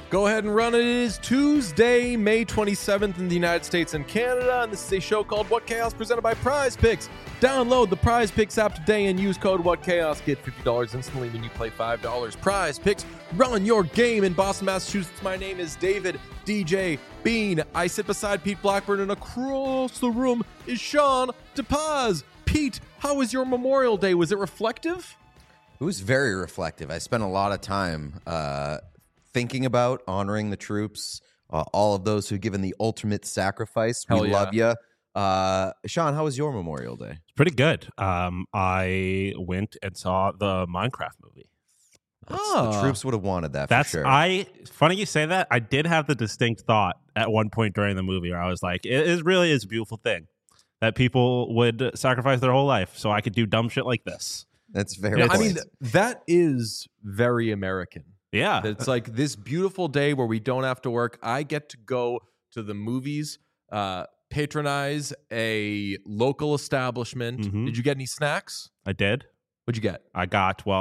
Go ahead and run it. It is Tuesday, May 27th in the United States and Canada, and this is a show called What Chaos presented by Prize Picks. Download the Prize Picks app today and use code What Chaos. Get $50 instantly when you play $5. Prize Picks, run your game in Boston, Massachusetts. My name is David DJ Bean. I sit beside Pete Blackburn, and across the room is Sean DePaz. Pete, how was your Memorial Day? Was it reflective? It was very reflective. I spent a lot of time thinking about honoring the troops, all of those who've given the ultimate sacrifice. Hell we yeah. love you. Sean, how was your Memorial Day? It's pretty good. I went and saw the Minecraft movie. The troops would have wanted that That's for sure. Funny you say that. I did have the distinct thought at one point during the movie where I was like, it really is a beautiful thing that people would sacrifice their whole life so I could do dumb shit like this. That's very. I point. mean, that is very American. Yeah. It's like this beautiful day where we don't have to work. I get to go to the movies, patronize a local establishment. Mhm. Did you get any snacks? I did. What'd you get? I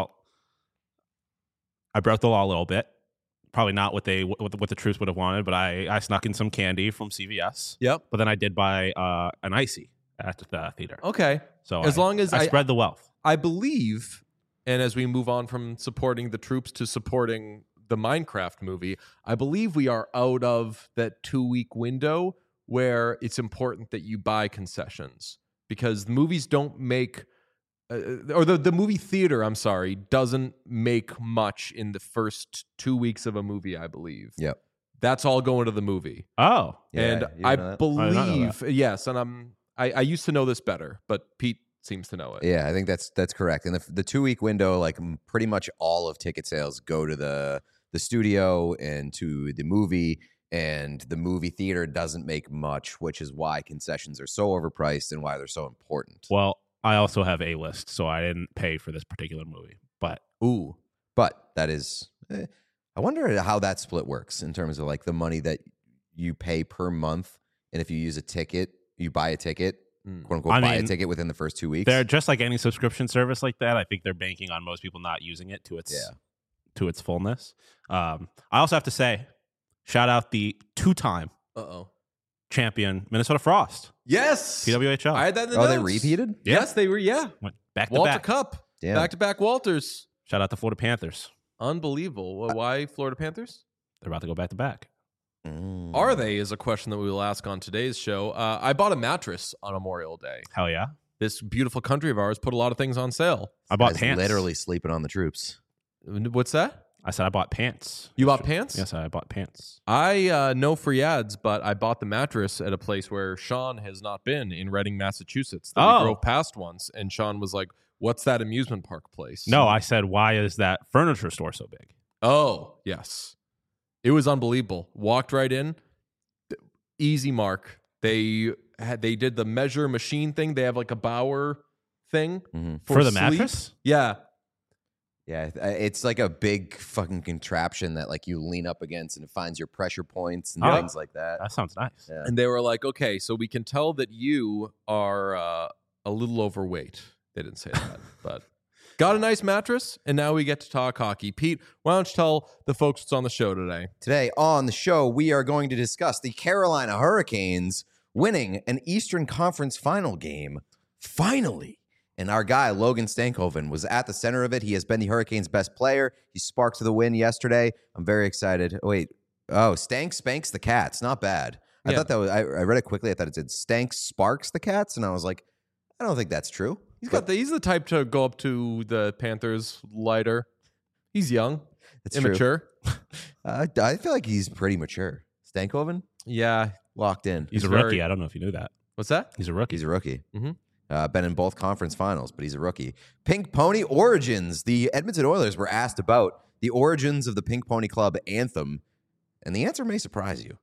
broke the law a little bit. Probably not what the troops would have wanted, but I snuck in some candy from CVS. Yep. But then I did buy an icy at the theater. Okay. So As long as I spread the wealth. I believe, and as we move on from supporting the troops to supporting the Minecraft movie, I believe we are out of that 2-week window where it's important that you buy concessions because the movies don't make, or the movie theater, I'm sorry, doesn't make much in the first 2 weeks of a movie, I believe. Yep. That's all going to the movie. Oh. Yeah, And you I know that? believe, yes, and I used to know this better, but Pete seems to know it. Yeah, I think that's correct. And the 2-week window, like pretty much all of ticket sales go to the studio and to the movie, and the movie theater doesn't make much, which is why concessions are so overpriced and why they're so important. Well, I also have A-list, so I didn't pay for this particular movie. But Ooh. But that is, I wonder how that split works in terms of like the money that you pay per month, and if you use a ticket, you buy a ticket. "Quote unquote," buy a ticket within the first 2 weeks. they're just like any subscription service like that. I think they're banking on most people not using it to its fullness. I also have to say, shout out the two-time champion Minnesota Frost, Yes. PWHL. I had that in the Oh, they notes. repeated? Yes, they were. Yeah. Went back to Walter back. Cup. Damn. Back-to-back Walters. Shout out to Florida Panthers. Unbelievable. Well, why Florida Panthers? They're about to go back to back. Are they is a question that we will ask on today's show. I bought a mattress on Memorial Day. Hell yeah. This beautiful country of ours put a lot of things on sale. I bought Guys pants. literally sleeping on the troops. What's that? I said I bought pants. You bought pants? Yes, I bought pants. I no free ads, but I bought the mattress at a place where Sean has not been in Reading, Massachusetts. That we drove past once, and Sean was like, "What's that amusement park place?" No, I said, why is that furniture store so big? Oh, yes. It was unbelievable. Walked right in. Easy mark. They did the measure machine thing. They have like a Bauer thing For the sleep. mattress? Yeah. Yeah, it's like a big fucking contraption that like you lean up against and it finds your pressure points and things like that. That sounds nice. Yeah. And they were like, "Okay, so we can tell that you are a little overweight." They didn't say that, but got a nice mattress, and now we get to talk hockey. Pete, why don't you tell the folks what's on the show today? Today on the show, we are going to discuss the Carolina Hurricanes winning an Eastern Conference final game, finally. And our guy, Logan Stankoven, was at the center of it. He has been the Hurricanes' best player. He sparked to the win yesterday. I'm very excited. Stank spanks the Cats. Not bad. I thought that was, I read it quickly. I thought it said Stank sparks the Cats. And I was like, I don't think that's true. He's the type to go up to the Panthers lighter. He's young, It's immature. True. I feel like he's pretty mature. Stankoven? Yeah. Locked in. He's a very- rookie. I don't know if you knew that. What's that? He's a rookie. He's a rookie. Mhm. Been in both conference finals, but he's a rookie. Pink Pony Origins. The Edmonton Oilers were asked about the origins of the Pink Pony Club anthem, and the answer may surprise you.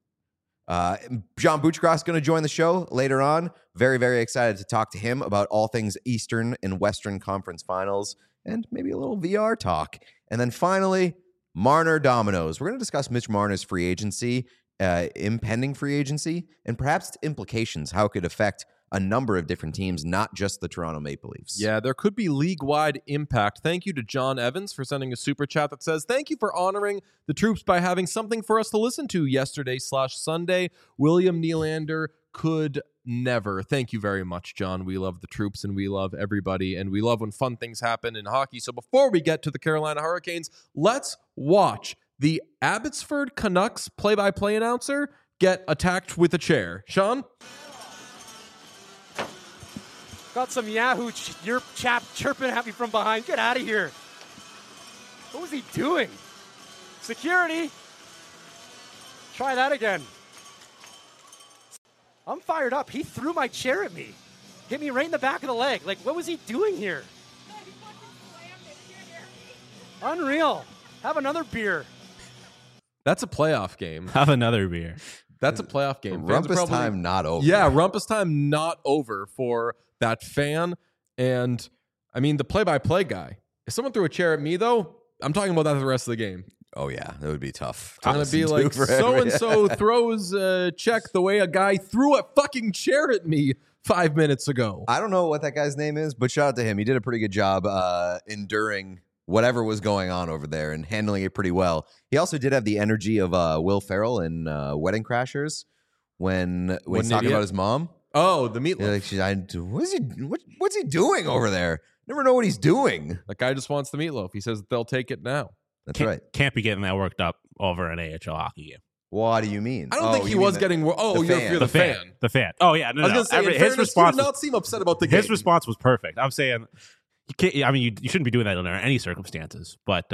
John Bouchcross is going to join the show later on. Very, very excited to talk to him about all things Eastern and Western Conference finals and maybe a little VR talk. And then finally, Marner Dominoes. We're going to discuss Mitch Marner's free agency, impending free agency, and perhaps its implications, how it could affect a number of different teams, not just the Toronto Maple Leafs. Yeah, there could be league-wide impact. Thank you to John Evans for sending a super chat that says, thank you for honoring the troops by having something for us to listen to yesterday/Sunday. William Nylander could never. Thank you very much, John. We love the troops and we love everybody, and we love when fun things happen in hockey. So before we get to the Carolina Hurricanes, let's watch the Abbotsford Canucks play-by-play announcer get attacked with a chair. Sean? Got some Yahoo your chap chirping at me from behind. Get out of here. What was he doing? Security. Try that again. I'm fired up. He threw my chair at me. Hit me right in the back of the leg. Like, what was he doing here? Unreal. Have another beer. That's a playoff game. Have another beer. That's a playoff game. Rumpus time not over. Yeah, rumpus time not over for that fan. And, I mean, the play-by-play guy. If someone threw a chair at me, though, I'm talking about that for the rest of the game. Oh, yeah. That would be tough. I'm going to be like, so-and-so throws a check the way a guy threw a fucking chair at me 5 minutes ago. I don't know what that guy's name is, but shout out to him. He did a pretty good job enduring whatever was going on over there and handling it pretty well. He also did have the energy of Will Ferrell in Wedding Crashers when he's talking about his mom. Oh, the meatloaf. Yeah, like what's he doing over there? Never know what he's doing. That guy just wants the meatloaf. He says they'll take it now. That's right. Can't be getting that worked up over an AHL hockey game. What do you mean? I don't think he was getting. Oh, you're the fan. The fan. Oh yeah, no. I was going to say, his response did not seem upset about the game. His response was perfect. I'm saying, you can't. I mean, you shouldn't be doing that under any circumstances. But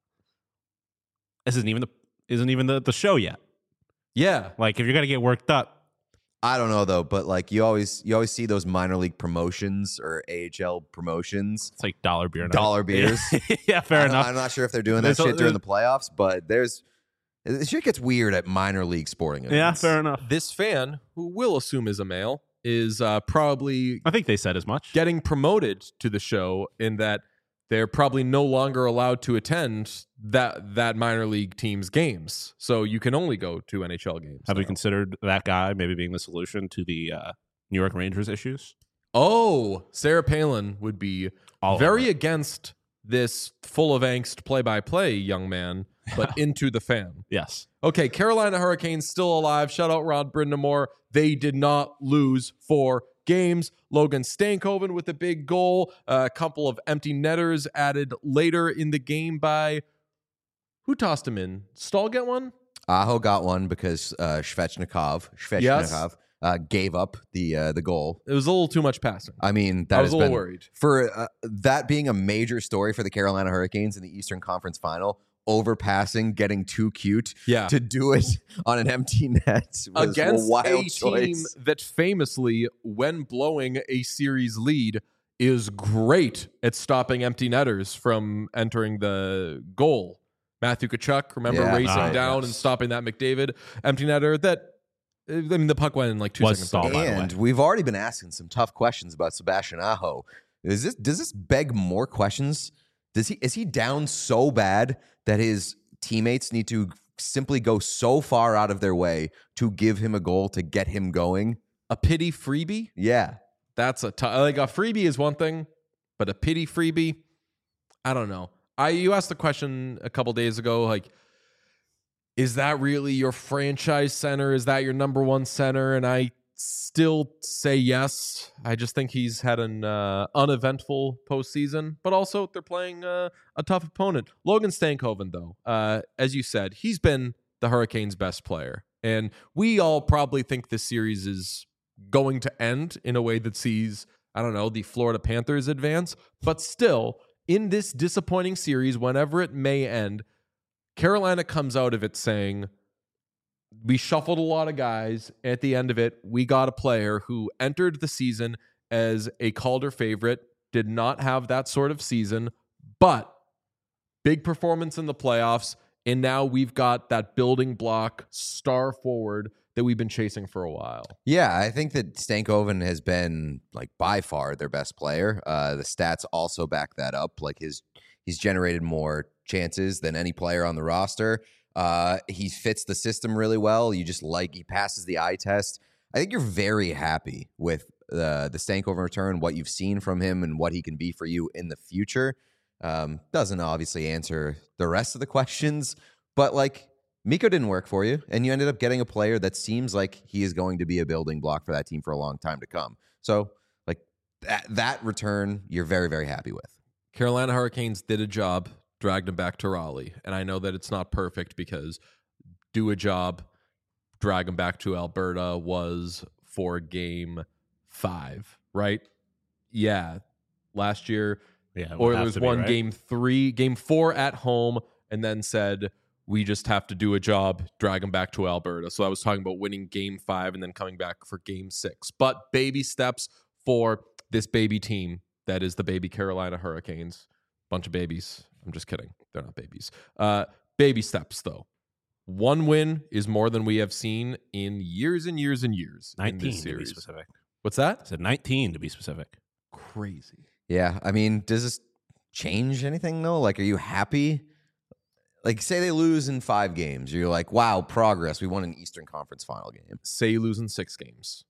this isn't even the show yet. Yeah, like if you're gonna get worked up. I don't know though, but like you always see those minor league promotions or AHL promotions. It's like dollar beers. Yeah, fair enough. I'm not sure if they're doing that shit during the playoffs, but the shit gets weird at minor league sporting events. Yeah, fair enough. This fan, who we'll assume is a male, is probably, I think they said as much, getting promoted to the show in that they're probably no longer allowed to attend that minor league team's games. So you can only go to NHL games. Have we considered that guy maybe being the solution to the New York Rangers issues? Oh, Sarah Palin would be very against this full of angst play-by-play young man, but into the fan. Yes. Okay, Carolina Hurricanes still alive. Shout out Rod Brindamore. They did not lose 4 games. Logan Stankoven with a big goal. A couple of empty netters added later in the game by... Who tossed him in? Stahl get one? Aho got one because Svechnikov gave up the goal. It was a little too much passing. I mean, I was a little worried. For that being a major story for the Carolina Hurricanes in the Eastern Conference Final. Overpassing, getting too cute to do it on an empty net was against a wild team that famously, when blowing a series lead, is great at stopping empty netters from entering the goal. Matthew Tkachuk, remember racing down and stopping that McDavid empty netter that, I mean, the puck went in like 2 seconds. Stalled, and we've already been asking some tough questions about Sebastian Aho. Does this beg more questions? Is he down so bad that his teammates need to simply go so far out of their way to give him a goal to get him going? A pity freebie? Yeah. That's like a freebie is one thing, but a pity freebie, I don't know. You asked the question a couple days ago, like, is that really your franchise center? Is that your number one center? And I still say yes. I just think he's had an uneventful postseason, but also they're playing a tough opponent. Logan Stankoven, though, as you said, he's been the Hurricanes' best player. And we all probably think this series is going to end in a way that sees, I don't know, the Florida Panthers advance. But still, in this disappointing series, whenever it may end, Carolina comes out of it saying, we shuffled a lot of guys. At the end of it, we got a player who entered the season as a Calder favorite, did not have that sort of season, but big performance in the playoffs. And now we've got that building block star forward that we've been chasing for a while. Yeah, I think that Stankoven has been like by far their best player. The stats also back that up. Like he's generated more chances than any player on the roster. He fits the system really well. He passes the eye test. I think you're very happy with the Stankoven return, what you've seen from him, and what he can be for you in the future. Doesn't obviously answer the rest of the questions, but like Mikko didn't work for you, and you ended up getting a player that seems like he is going to be a building block for that team for a long time to come. So like that return, you're very, very happy with. Carolina Hurricanes did a job, dragged him back to Raleigh. And I know that it's not perfect because do a job, drag him back to Alberta was for game 5, right? Yeah. Last year, Oilers won right? game 4 at home, and then said, we just have to do a job, drag him back to Alberta. So I was talking about winning game 5 and then coming back for game 6. But baby steps for this baby team that is the baby Carolina Hurricanes. Bunch of babies. I'm just kidding. They're not babies. Baby steps, though. 1 win is more than we have seen in years and years and years. 19 to be specific. What's that? I said 19 to be specific. Crazy. Yeah, I mean, does this change anything, though? Like, are you happy? Like, say they lose in 5 games. You're like, wow, progress. We won an Eastern Conference final game. Say you lose in 6 games.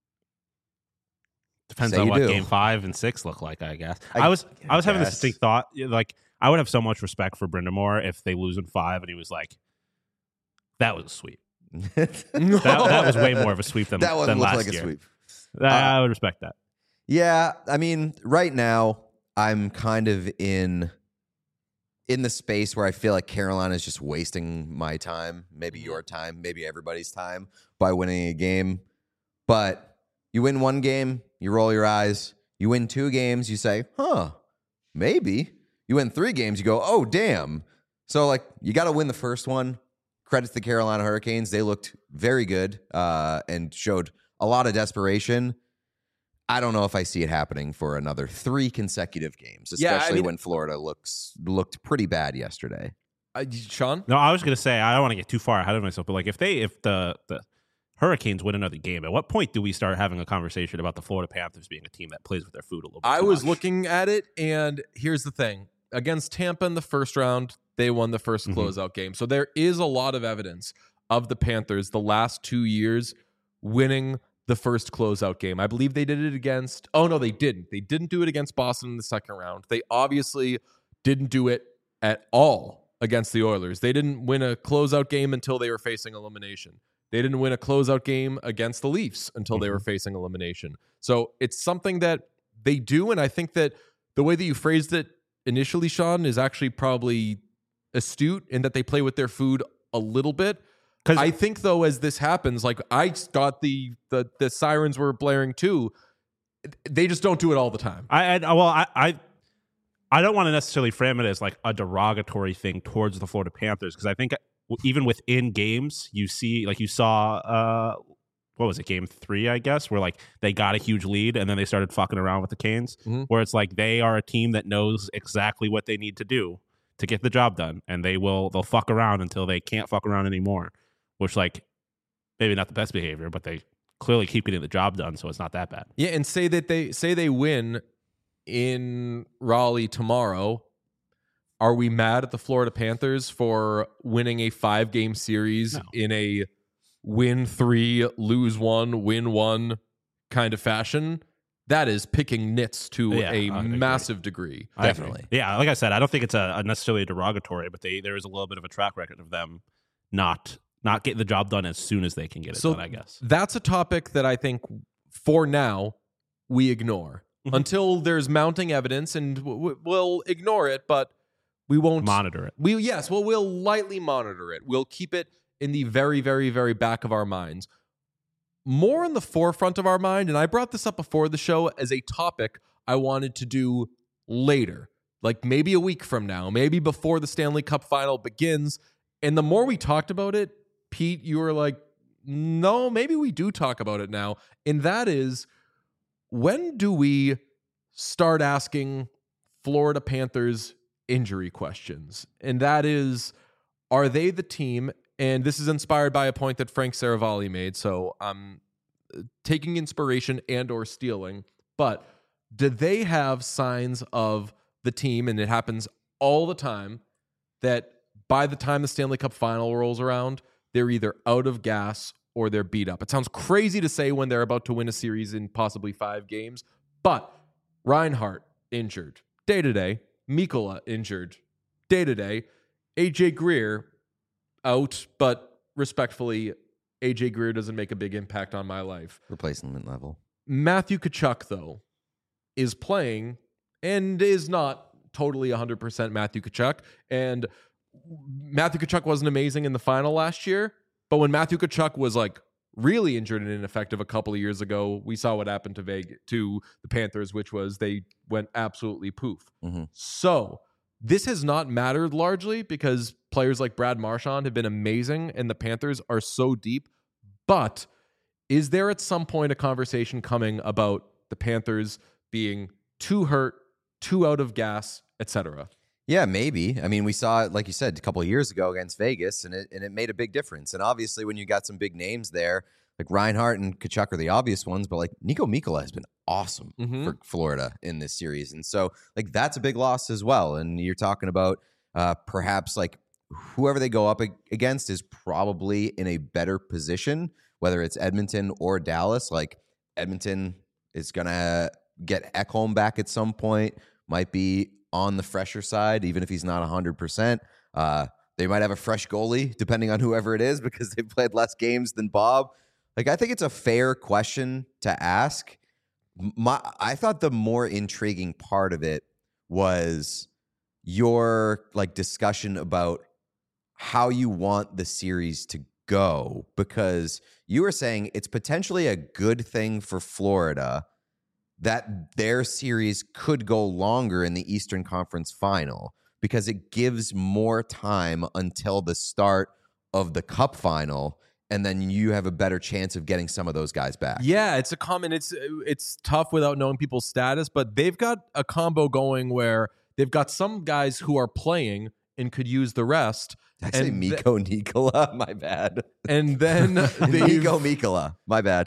Depends on what game 5 and 6 look like, I guess. I was having this distinct thought. Like, I would have so much respect for Brind'Amour if they lose in 5 and he was like, that was a sweep. that was way more of a sweep than that than last like year. A sweep. I would respect that. Yeah, I mean, right now I'm kind of in the space where I feel like Carolina is just wasting my time, maybe your time, maybe everybody's time by winning a game. But you win 1 game, you roll your eyes. You win 2 games, you say, maybe. You win 3 games, you go, oh, damn. So, like, you got to win the first one. Credit to the Carolina Hurricanes. They looked very good and showed a lot of desperation. I don't know if I see it happening for another 3 consecutive games, especially when Florida looked pretty bad yesterday. Sean? No, I was going to say, I don't want to get too far ahead of myself, but like if the Hurricanes win another game, at what point do we start having a conversation about the Florida Panthers being a team that plays with their food a little bit I was much? looking at it, and here's the thing. Against Tampa in the first round, they won the first closeout game. So there is a lot of evidence of the Panthers the last 2 years winning the first closeout game. I believe they did it against... Oh, no, they didn't. They didn't do it against Boston in the second round. They obviously didn't do it at all against the Oilers. They didn't win a closeout game until they were facing elimination. They didn't win a closeout game against the Leafs until they were facing elimination. So it's something that they do, and I think that the way that you phrased it initially, Sean, is actually probably astute in that they play with their food a little bit. Because I think, though, as this happens, like I got the sirens were blaring too. They just don't do it all the time. I don't want to necessarily frame it as like a derogatory thing towards the Florida Panthers, because I think even within games, you see, like you saw, what was it, game 3, I guess, where like they got a huge lead and then they started fucking around with the Canes, where it's like they are a team that knows exactly what they need to do to get the job done, and they'll fuck around until they can't fuck around anymore, which, like, maybe not the best behavior, but they clearly keep getting the job done, so it's not that bad. Yeah, and say they win in Raleigh tomorrow. Are we mad at the Florida Panthers for winning a 5-game series in a win 3, lose 1, win 1 kind of fashion? That is picking nits to a massive degree. Definitely. Yeah, like I said, I don't think it's a necessarily derogatory, but there is a little bit of a track record of them not getting the job done as soon as they can get it done, I guess. That's a topic that I think for now we ignore until there's mounting evidence, and we'll ignore it, but we won't monitor it. We'll lightly monitor it. We'll keep it in the very, very, very back of our minds. More in the forefront of our mind, and I brought this up before the show as a topic I wanted to do later, like maybe a week from now, maybe before the Stanley Cup final begins. And the more we talked about it, Pete, you were like, no, maybe we do talk about it now. And that is, when do we start asking Florida Panthers injury questions? And that is, are they the team? And this is inspired by a point that Frank Saravalli made, so I'm taking inspiration and or stealing. But do they have signs of the team, and it happens all the time, that by the time the Stanley Cup final rolls around, they're either out of gas or they're beat up. It sounds crazy to say when they're about to win a series in possibly 5 games, but Reinhart injured day-to-day, Mikkola injured day-to-day, AJ Greer out, but respectfully, AJ Greer doesn't make a big impact on my life. Replacement level. Matthew Tkachuk, though, is playing and is not totally 100% Matthew Tkachuk. And Matthew Tkachuk wasn't amazing in the final last year, but when Matthew Tkachuk was like really injured and ineffective a couple of years ago, we saw what happened to the Panthers, which was they went absolutely poof. Mm-hmm. So this has not mattered largely because players like Brad Marchand have been amazing and the Panthers are so deep. But is there at some point a conversation coming about the Panthers being too hurt, too out of gas, etc.? Yeah, maybe. I mean, we saw it, like you said, a couple of years ago against Vegas, and it made a big difference. And obviously, when you got some big names there, like Reinhart and Tkachuk are the obvious ones, but like Nico Mikkola has been awesome for Florida in this series. And so, like, that's a big loss as well. And you're talking about perhaps like whoever they go up against is probably in a better position, whether it's Edmonton or Dallas. Like, Edmonton is going to get Ekholm back at some point, might be on the fresher side, even if he's not 100%. They might have a fresh goalie, depending on whoever it is, because they played less games than Bob. Like, I think it's a fair question to ask. I thought the more intriguing part of it was your like discussion about how you want the series to go, because you were saying it's potentially a good thing for Florida that their series could go longer in the Eastern Conference Final because it gives more time until the start of the Cup Final, and then you have a better chance of getting some of those guys back. Yeah, it's a common. It's tough without knowing people's status, but they've got a combo going where they've got some guys who are playing and could use the rest. Did I say Mikko Nikola? My bad. And then Mikko Mikkola. My bad.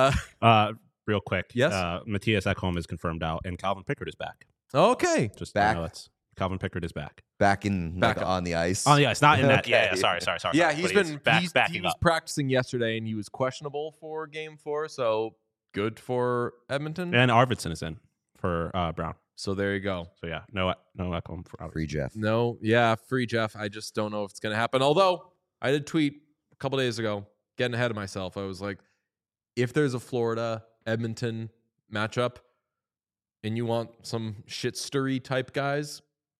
Real quick. Yes. Matthias Ekholm is confirmed out, and Calvin Pickard is back. Okay. Just back. Calvin Pickard is back. Back on the ice. On the ice, not in that. Okay. Yeah. Sorry. Yeah, he backing was up. practicing yesterday, and he was questionable for Game 4. So good for Edmonton. And Arvidsson is in for Brown. So there you go. So yeah, no Ekholm for Arvidsson. Free Jeff. No, yeah, free Jeff. I just don't know if it's going to happen. Although I did tweet a couple days ago, getting ahead of myself. I was like, if there's a Florida Edmonton matchup and you want some shit stirry type guys,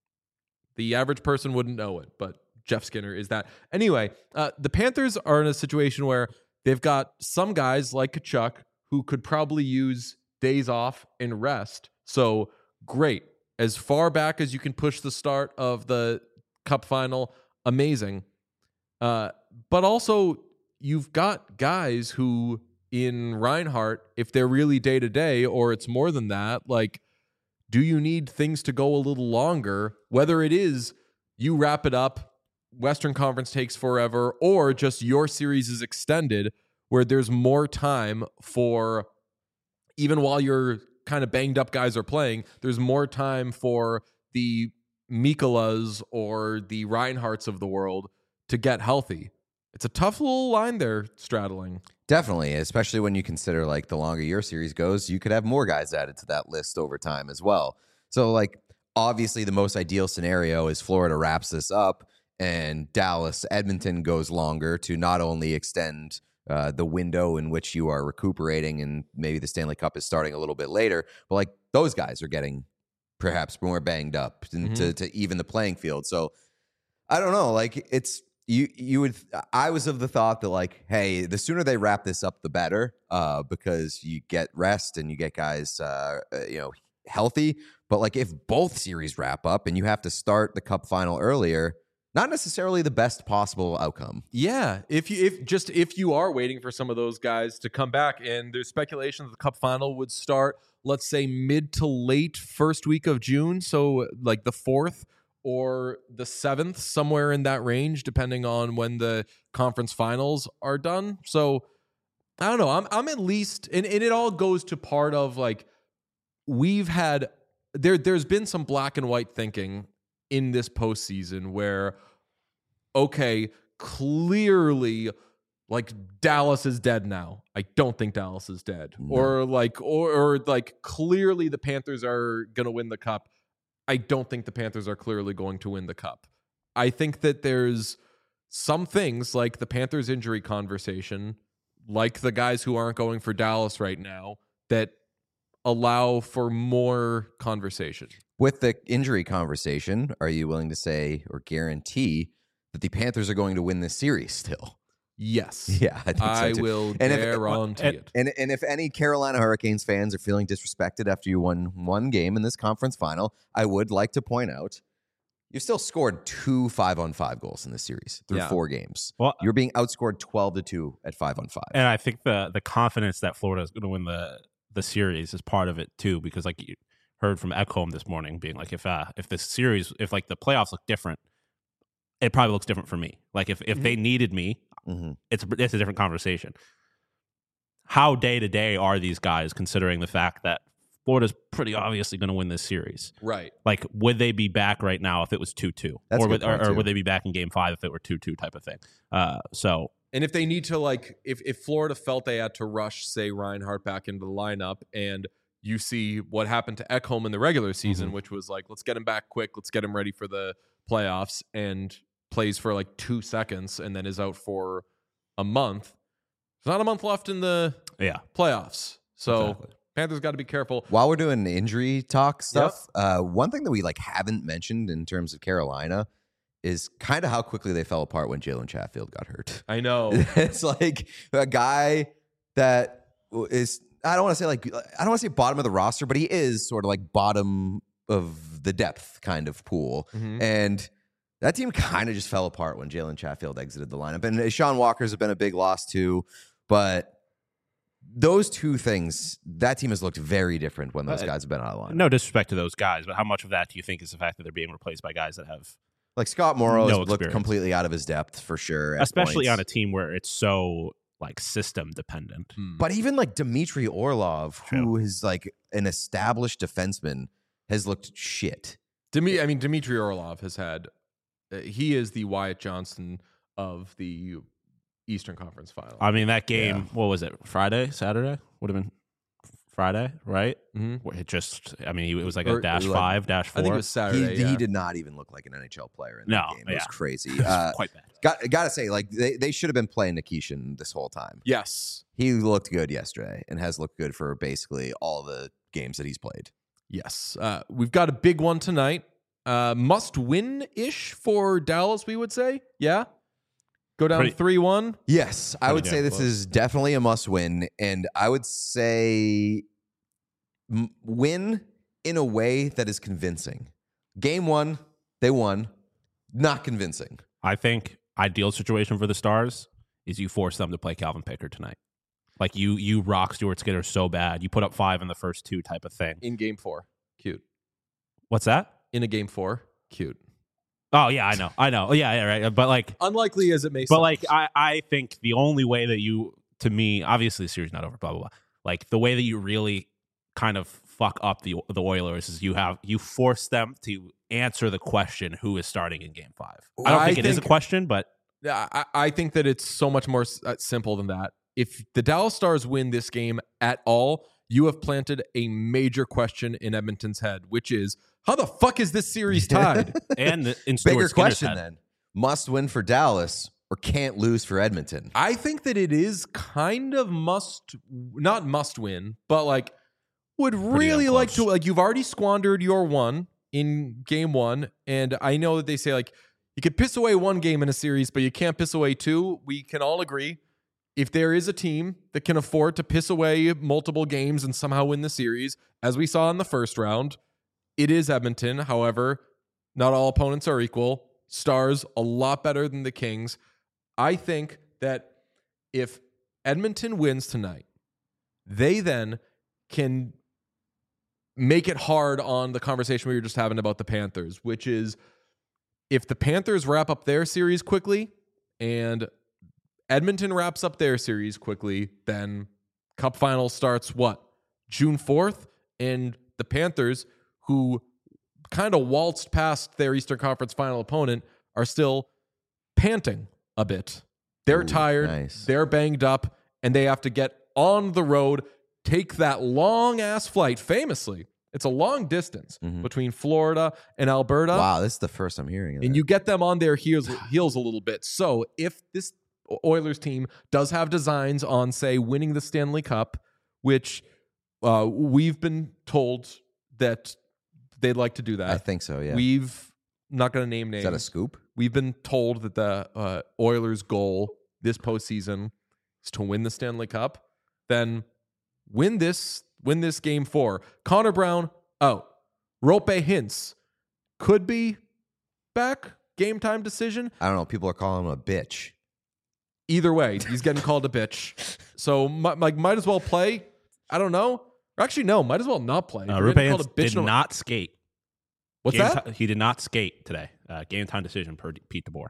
the average person wouldn't know it, but Jeff Skinner is that. Anyway, the Panthers are in a situation where they've got some guys like Tkachuk who could probably use days off and rest. So great. As far back as you can push the start of the Cup Final, amazing. But also, you've got guys who, in Reinhart, if they're really day-to-day or it's more than that, like, do you need things to go a little longer? Whether it is you wrap it up, Western Conference takes forever, or just your series is extended where there's more time for, even while your kind of banged up guys are playing, there's more time for the Mikkolas or the Reinharts of the world to get healthy. It's a tough little line there straddling. Definitely, especially when you consider like the longer your series goes, you could have more guys added to that list over time as well. So like obviously the most ideal scenario is Florida wraps this up and Dallas, Edmonton goes longer to not only extend the window in which you are recuperating and maybe the Stanley Cup is starting a little bit later, but like those guys are getting perhaps more banged up to even the playing field. So I don't know, like it's I was of the thought that like, hey, the sooner they wrap this up, the better, because you get rest and you get guys, healthy. But like, if both series wrap up and you have to start the Cup Final earlier, not necessarily the best possible outcome. Yeah, if you are waiting for some of those guys to come back, and there's speculation that the Cup Final would start, let's say mid to late first week of June, so like the 4th. Or the 7th, somewhere in that range, depending on when the conference finals are done. So I don't know. I'm at least, and it all goes to part of like, we've had there's been some black and white thinking in this postseason where, okay, clearly like Dallas is dead now. I don't think Dallas is dead. No. Or like clearly the Panthers are going to win the cup. I don't think the Panthers are clearly going to win the cup. I think that there's some things like the Panthers injury conversation, like the guys who aren't going for Dallas right now, that allow for more conversation. With the injury conversation, are you willing to say or guarantee that the Panthers are going to win this series still? Yes. Yeah, I think so too. will And guarantee it. And if any Carolina Hurricanes fans are feeling disrespected after you won one game in this conference final, I would like to point out you still scored 2 5-on-5 goals in this series through 4 games. Well, you're being outscored 12-2 at 5-on-5. And I think the confidence that Florida is going to win the series is part of it too, because like you heard from Ekholm this morning being like, if the series, if like the playoffs look different, it probably looks different for me. Like if they needed me, it's a different conversation. How day to day are these guys, considering the fact that Florida's pretty obviously going to win this series? Right. Like, would they be back right now if it was 2-2? Or would they be back in game 5 if it were 2-2 type of thing? And if they need to, like, if Florida felt they had to rush, say, Reinhart back into the lineup, and you see what happened to Ekholm in the regular season, which was like, let's get him back quick, let's get him ready for the playoffs, and plays for like 2 seconds and then is out for a month. There's not a month left in the playoffs. So exactly. Panthers got to be careful. While we're doing injury talk stuff, one thing that we like haven't mentioned in terms of Carolina is kind of how quickly they fell apart when Jalen Chatfield got hurt. I know. It's like a guy that is, I don't want to say bottom of the roster, but he is sort of like bottom of the depth kind of pool. And that team kind of just fell apart when Jalen Chatfield exited the lineup. And Sean Walker's have been a big loss too, but those two things, that team has looked very different when those guys have been out of the lineup. No disrespect to those guys, but how much of that do you think is the fact that they're being replaced by guys that have like Scott Morrow has looked completely out of his depth for sure, especially on a team where it's so like system dependent. But even like Dmitry Orlov, who is like an established defenseman, has looked shit. Dmitry Orlov has had. He is the Wyatt Johnston of the Eastern Conference Final. I mean, that game, what was it? Friday, Saturday? Would have been Friday, right? It just, it was like a -5, -4. I think it was Saturday. He did not even look like an NHL player in that game. It was crazy. It was quite bad. Got to say, like they should have been playing Nikishin this whole time. Yes. He looked good yesterday and has looked good for basically all the games that he's played. Yes. We've got a big one tonight. Must win-ish for Dallas, we would say. Yeah? Go down 3-1? Yes. I would say this is definitely a must-win, and I would say win in a way that is convincing. Game 1, they won. Not convincing. I think ideal situation for the Stars is you force them to play Calvin Pickard tonight. Like you rock Stuart Skinner so bad. You put up 5 in the first 2 type of thing. In game 4. Cute. What's that? In a game 4. Cute. Oh, yeah, I know. Yeah, right. But like, unlikely as it may sound. But like, I think the only way that you, to me, obviously the series not over, blah, blah, blah. Like the way that you really kind of fuck up the Oilers is you force them to answer the question, who is starting in game 5. I don't think it is a question, but I think that it's so much more simple than that. If the Dallas Stars win this game at all, you have planted a major question in Edmonton's head, which is, how the fuck is this series tied? And in Stuart bigger Skinner's question head. then: must win for Dallas or can't lose for Edmonton? I think that it is kind of not must win, but like would really like to, like, you've already squandered your one in game 1, and I know that they say like you could piss away 1 game in a series, but you can't piss away 2. We can all agree, if there is a team that can afford to piss away multiple games and somehow win the series, as we saw in the first round, it is Edmonton. However, not all opponents are equal. Stars a lot better than the Kings. I think that if Edmonton wins tonight, they then can make it hard on the conversation we were just having about the Panthers, which is if the Panthers wrap up their series quickly and Edmonton wraps up their series quickly, then Cup final starts June 4th, and the Panthers, who kind of waltzed past their Eastern Conference final opponent, are still panting a bit. They're tired. Nice. They're banged up, and they have to get on the road, take that long-ass flight. Famously, it's a long distance between Florida and Alberta. Wow, this is the first I'm hearing of that. And you get them on their heels a little bit. So if this Oilers team does have designs on, say, winning the Stanley Cup, which we've been told that they'd like to do that. I think so, yeah. We've not going to name names. Is that a scoop? We've been told that the Oilers' goal this postseason is to win the Stanley Cup. Then win this game 4. Connor Brown out. Rope Hintz could be back. Game time decision. I don't know. People are calling him a bitch. Either way, he's getting called a bitch. So might as well play. I don't know. Or actually, no. Might as well not play. Rupe Hintz did not skate. What's that? He did not skate today. Game time decision per Pete DeBoer.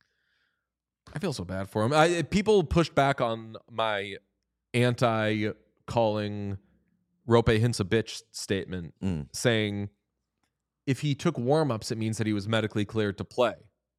I feel so bad for him. People pushed back on my anti-calling Rope Hintz a bitch statement, saying if he took warm-ups, it means that he was medically cleared to play.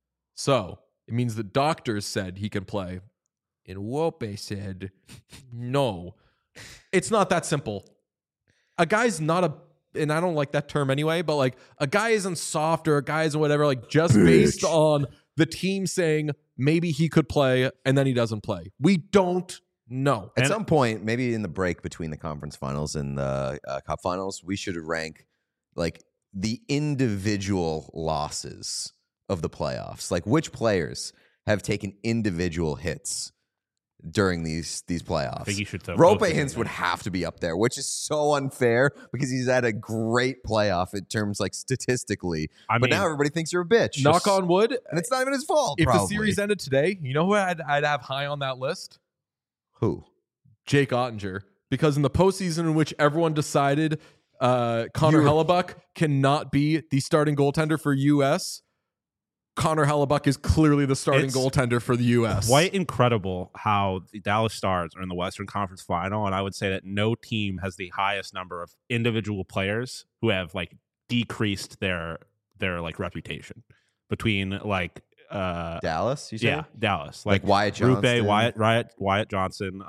So it means the doctors said he can play. And Rope said, no. It's not that simple. A guy's not a, and I don't like that term anyway, but like a guy isn't soft or a guy isn't whatever, like just based on the team saying maybe he could play and then he doesn't play. We don't know. At some point, maybe in the break between the conference finals and the cup finals, we should rank like the individual losses of the playoffs. Like which players have taken individual hits during these playoffs. I think you should throw Rope Hintz would have to be up there, which is so unfair because he's had a great playoff in terms like statistically. But now everybody thinks you're a bitch. Knock on wood. And it's not even his fault. If probably. the series ended today, you know who I'd have high on that list? Who? Jake Ottinger. Because in the postseason in which everyone decided Connor Hellebuyck cannot be the starting goaltender for U.S., Connor Hellebuyck is clearly the starting goaltender for the U.S. Quite incredible how the Dallas Stars are in the Western Conference Final, and I would say that no team has the highest number of individual players who have like decreased their like reputation between like Dallas. You said? Yeah, Dallas. Like Wyatt Johnston, Wyatt Johnson,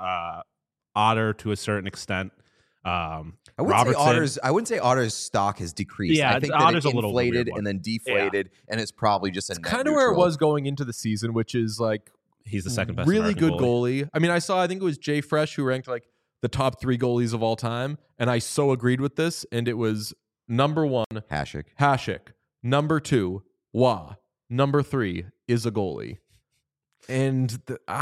Otter to a certain extent. I wouldn't say Otter's stock has decreased. Yeah, I think Otter's that it a little inflated weird and then deflated, and it's probably just a net kind of where it was going into the season, which is like he's the second best, really American good goalie. I mean, I think it was Jay Fresh who ranked like the top 3 goalies of all time, and I so agreed with this. And it was number 1 Hasek, number 2 Wah, number 3 is a goalie, and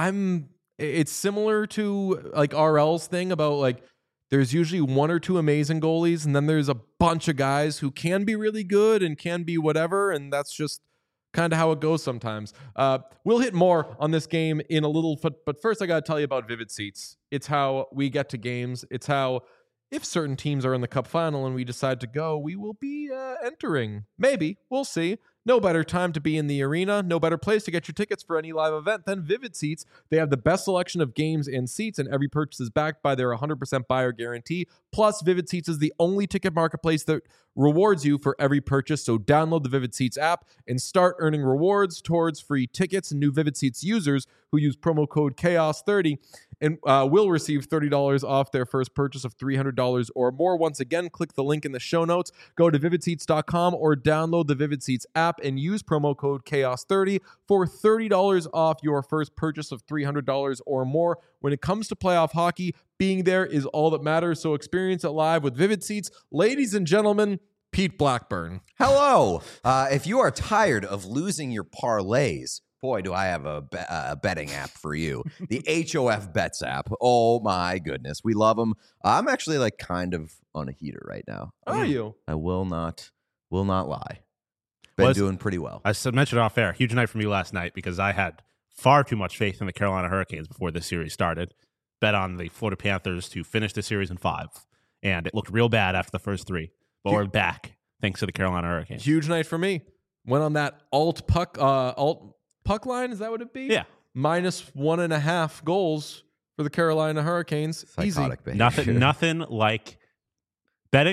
it's similar to like RL's thing about like. There's usually 1 or 2 amazing goalies, and then there's a bunch of guys who can be really good and can be whatever, and that's just kind of how it goes sometimes. We'll hit more on this game in a little, but first I got to tell you about Vivid Seats. It's how we get to games. It's how, if certain teams are in the Cup final and we decide to go, we will be entering. Maybe. We'll see. No better time to be in the arena. No better place to get your tickets for any live event than Vivid Seats. They have the best selection of games and seats, and every purchase is backed by their 100% buyer guarantee. Plus, Vivid Seats is the only ticket marketplace that rewards you for every purchase. So download the Vivid Seats app and start earning rewards towards free tickets. And new Vivid Seats users who use promo code CHAOS30 and will receive $30 off their first purchase of $300 or more. Once again, click the link in the show notes. Go to vividseats.com or download the Vivid Seats app and use promo code CHAOS30 for $30 off your first purchase of $300 or more. When it comes to playoff hockey, being there is all that matters. So experience it live with Vivid Seats. Ladies and gentlemen, Pete Blackburn. Hello. If you are tired of losing your parlays, boy, do I have a betting app for you. The HOF Bets app. Oh, my goodness. We love them. I'm actually like kind of on a heater right now. Are you? I will not lie. Been doing pretty well. I mentioned off air. Huge night for me last night because I had far too much faith in the Carolina Hurricanes before this series started. Bet on the Florida Panthers to finish the series in 5. And it looked real bad after the first 3. But we're back thanks to the Carolina Hurricanes. Huge night for me. Went on that alt puck line. Is that what it'd be? Yeah. Minus 1.5 goals for the Carolina Hurricanes. Psychotic Easy. behavior. Nothing like betting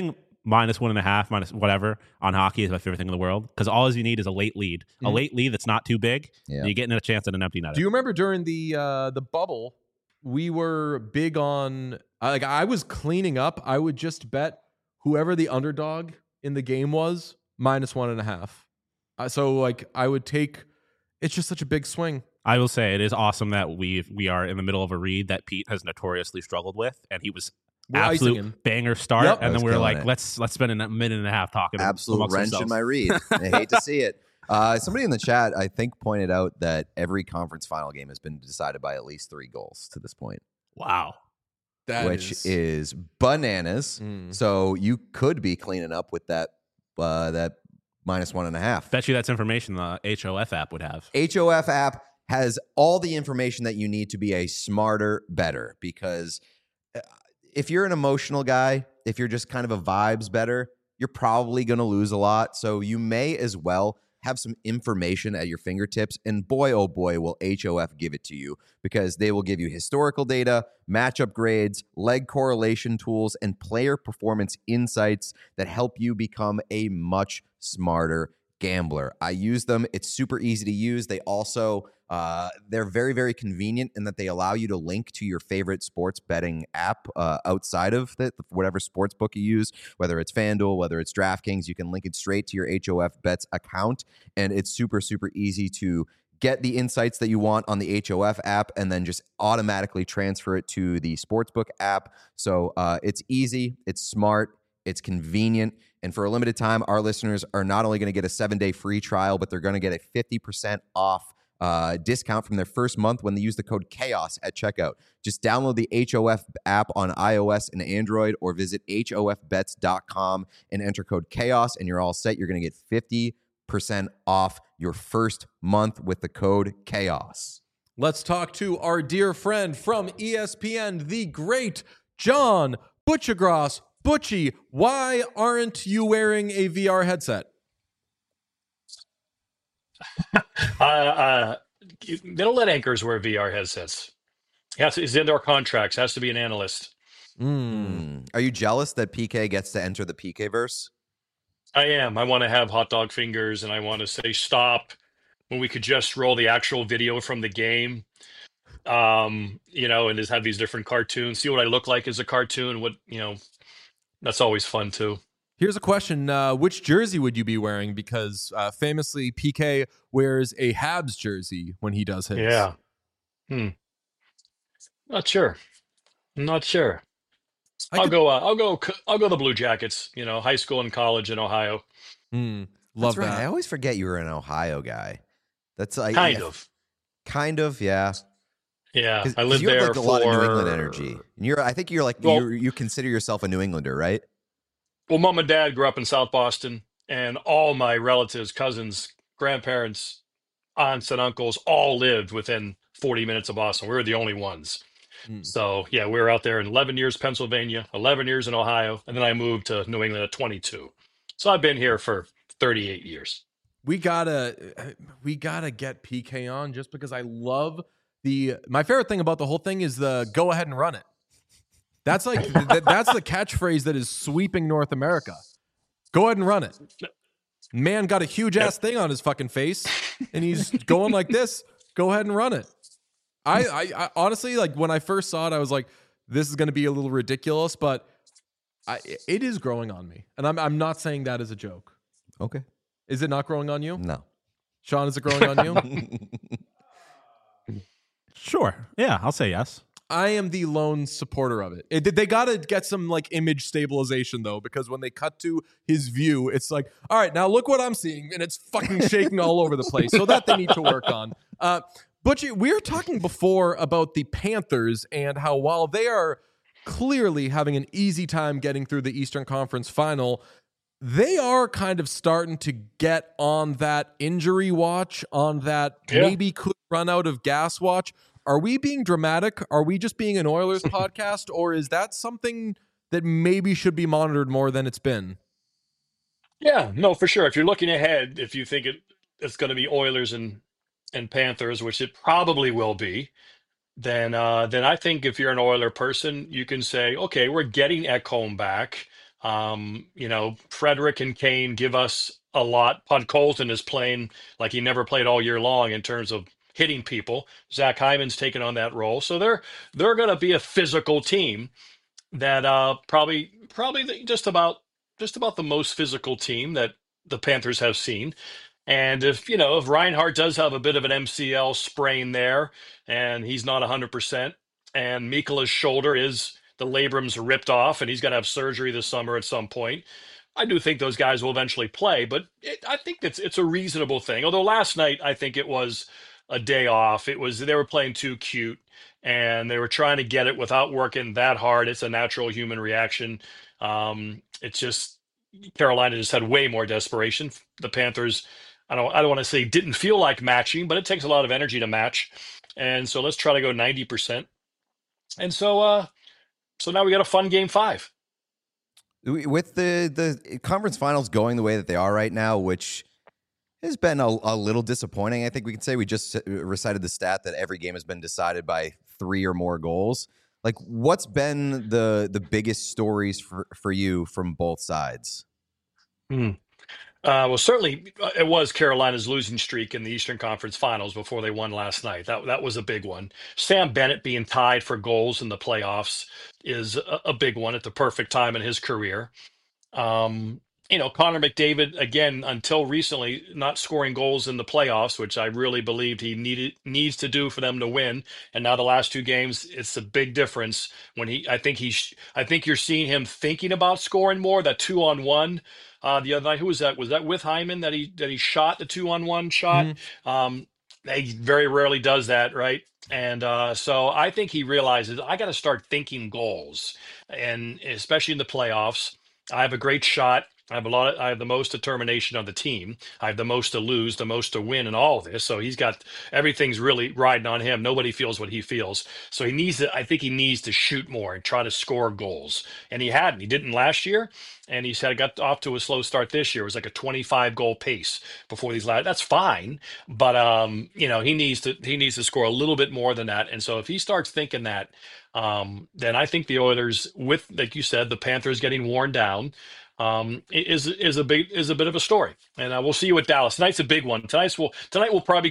-1.5, minus whatever on hockey is my favorite thing in the world because all you need is a late lead, a late lead that's not too big. Yeah. And you're getting a chance at an empty net. Do you remember during the bubble, we were big on like I was cleaning up. I would just bet whoever the underdog in the game was -1.5. So like I would take. It's just such a big swing. I will say it is awesome that we are in the middle of a read that Pete has notoriously struggled with, and he was absolute banger start, Yep. and then we were like, it. let's spend a minute and a half talking. Absolute wrench in my read. I hate to see it. Somebody in the chat, I think, pointed out that every conference final game has been decided by at least 3 goals to this point. Wow. Which is bananas. So you could be cleaning up with that -1.5. Bet you that's information the HOF app would have. HOF app has all the information that you need to be a smarter better, because if you're an emotional guy, if you're just kind of a vibes better, you're probably going to lose a lot. So you may as well have some information at your fingertips, and boy, oh boy, will HOF give it to you, because they will give you historical data, matchup grades, leg correlation tools, and player performance insights that help you become a much smarter gambler. I use them. It's super easy to use. They also, they're very, very convenient in that they allow you to link to your favorite sports betting app outside of whatever sports book you use, whether it's FanDuel, whether it's DraftKings. You can link it straight to your HOF Bets account, and it's super, super easy to get the insights that you want on the HOF app and then just automatically transfer it to the Sportsbook app. So it's easy, it's smart, it's convenient. And for a limited time, our listeners are not only going to get a 7-day free trial, but they're going to get a 50% off discount from their first month when they use the code CHAOS at checkout. Just download the HOF app on iOS and Android, or visit hofbets.com and enter code CHAOS, and you're all set. You're going to get 50% off your first month with the code CHAOS. Let's talk to our dear friend from ESPN, the great John Butchergross. Butchie, why aren't you wearing a VR headset? They don't let anchors wear VR headsets. It's in their contracts. Has to be an analyst. Are you jealous that PK gets to enter the PK verse? I am. I want to have hot dog fingers, and I want to say stop when we could just roll the actual video from the game. And just have these different cartoons. See what I look like as a cartoon. That's always fun too. Here's a question. Which jersey would you be wearing? Because famously, PK wears a Habs jersey when he does his. Yeah. Not sure. I'll go the Blue Jackets, high school and college in Ohio. Love That's right. that. I always forget you were an Ohio guy. That's like Kind of, yeah. Yeah, I lived you have there like a lot of New England energy. And I think you're like you consider yourself a New Englander, right? Well, Mom and Dad grew up in South Boston, and all my relatives, cousins, grandparents, aunts, and uncles all lived within 40 minutes of Boston. We were the only ones. So, yeah, we were out there in 11 years Pennsylvania, 11 years in Ohio, and then I moved to New England at 22. So I've been here for 38 years. We gotta get PK on, just because I love my favorite thing about the whole thing is the go ahead and run it. That's like that's the catchphrase that is sweeping North America. Go ahead and run it. Man got a huge ass thing on his fucking face, and he's going like this. Go ahead and run it. I honestly, like, when I first saw it, I was like, this is going to be a little ridiculous, but it is growing on me, and I'm not saying that as a joke. Okay. Is it not growing on you? No. Sean, is it growing on you? Sure. Yeah, I'll say yes. I am the lone supporter of it. They got to get some like image stabilization though, because when they cut to his view, it's like, all right, now look what I'm seeing, and it's fucking shaking all over the place. So that they need to work on. Butchie, we were talking before about the Panthers and how while they are clearly having an easy time getting through the Eastern Conference Final, they are kind of starting to get on that injury watch, on that maybe could run out of gas watch. Are we being dramatic? Are we just being an Oilers podcast? Or is that something that maybe should be monitored more than it's been? Yeah, no, for sure. If you're looking ahead, if you think it's going to be Oilers and Panthers, which it probably will be, then I think if you're an Oiler person, you can say, okay, we're getting Ekholm back. Frederick and Kane give us a lot. Podkolzin is playing like he never played all year long in terms of hitting people. Zach Hyman's taken on that role, so they're going to be a physical team that probably just about the most physical team that the Panthers have seen. And if Reinhardt does have a bit of an MCL sprain there, and he's not 100%, and Mikola's shoulder is the labrum's ripped off, and he's going to have surgery this summer at some point, I do think those guys will eventually play. But I think it's a reasonable thing. Although last night I think it was a day off. They were playing too cute, and they were trying to get it without working that hard. It's a natural human reaction. It's just Carolina just had way more desperation. The Panthers, I don't want to say didn't feel like matching, but it takes a lot of energy to match. And so let's try to go 90%. And so now we got a fun game 5. With the conference finals going the way that they are right now, which has been a little disappointing. I think we can say we just recited the stat that every game has been decided by 3 or more goals. Like, what's been the biggest stories for you from both sides? Well, certainly it was Carolina's losing streak in the Eastern Conference Finals before they won last night. That was a big one. Sam Bennett being tied for goals in the playoffs is a big one at the perfect time in his career. Connor McDavid, again, until recently, not scoring goals in the playoffs, which I really believed he needs to do for them to win. And now the last 2 games, it's a big difference when I think you're seeing him thinking about scoring more. That 2-on-1 the other night, who was that? Was that with Hyman that he shot the 2-on-1 shot? He very rarely does that, right? And so I think he realizes I got to start thinking goals, and especially in the playoffs. I have a great shot. I have the most determination on the team. I have the most to lose, the most to win in all of this. So everything's really riding on him. Nobody feels what he feels. So I think he needs to shoot more and try to score goals. And he hadn't. He didn't last year. And he said, got off to a slow start this year. It was like a 25 goal pace before these last. That's fine. But, he needs to score a little bit more than that. And so if he starts thinking that, then I think the Oilers, with, like you said, the Panthers getting worn down, is a bit of a story. And we'll see you at Dallas. Tonight's a big one. Tonight will probably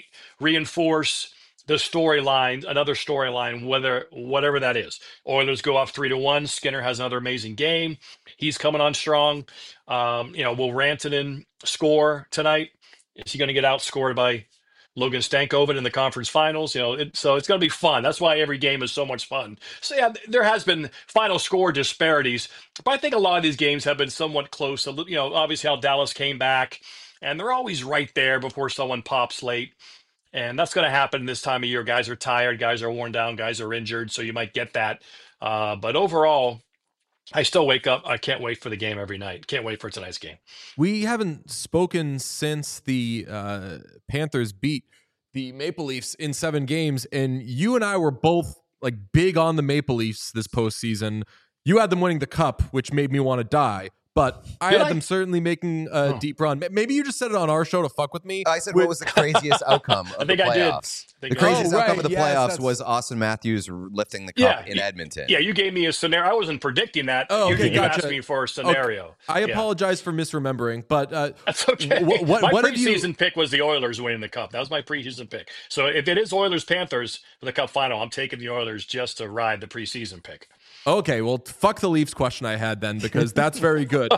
reinforce the storyline, another storyline, whatever that is. Oilers go off 3-1. Skinner has another amazing game. He's coming on strong. Will Rantanen score tonight? Is he going to get outscored by Logan Stankoven in the conference finals? So it's going to be fun. That's why every game is so much fun. So yeah, there has been final score disparities, but I think a lot of these games have been somewhat close. Obviously how Dallas came back, and they're always right there before someone pops late. And that's going to happen this time of year. Guys are tired, guys are worn down, guys are injured, so you might get that. But overall, I still wake up. I can't wait for the game every night. Can't wait for tonight's game. We haven't spoken since the Panthers beat the Maple Leafs in 7 games, and you and I were both like big on the Maple Leafs this postseason. You had them winning the cup, which made me want to die. But I had them certainly making a deep run. Maybe you just said it on our show to fuck with me. I said, what was the craziest outcome of the playoffs? The craziest outcome of the playoffs was Austin Matthews lifting the cup in Edmonton. Yeah, you gave me a scenario. I wasn't predicting that. You asked me for a scenario. Okay. I apologize for misremembering, but that's okay. My preseason pick was the Oilers winning the cup. That was my preseason pick. So if it is Oilers-Panthers for the cup final, I'm taking the Oilers just to ride the preseason pick. Okay, well, fuck the Leafs question I had then, because that's very good.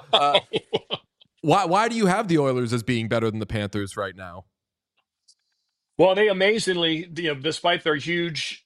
Why do you have the Oilers as being better than the Panthers right now? Well, they amazingly, despite their huge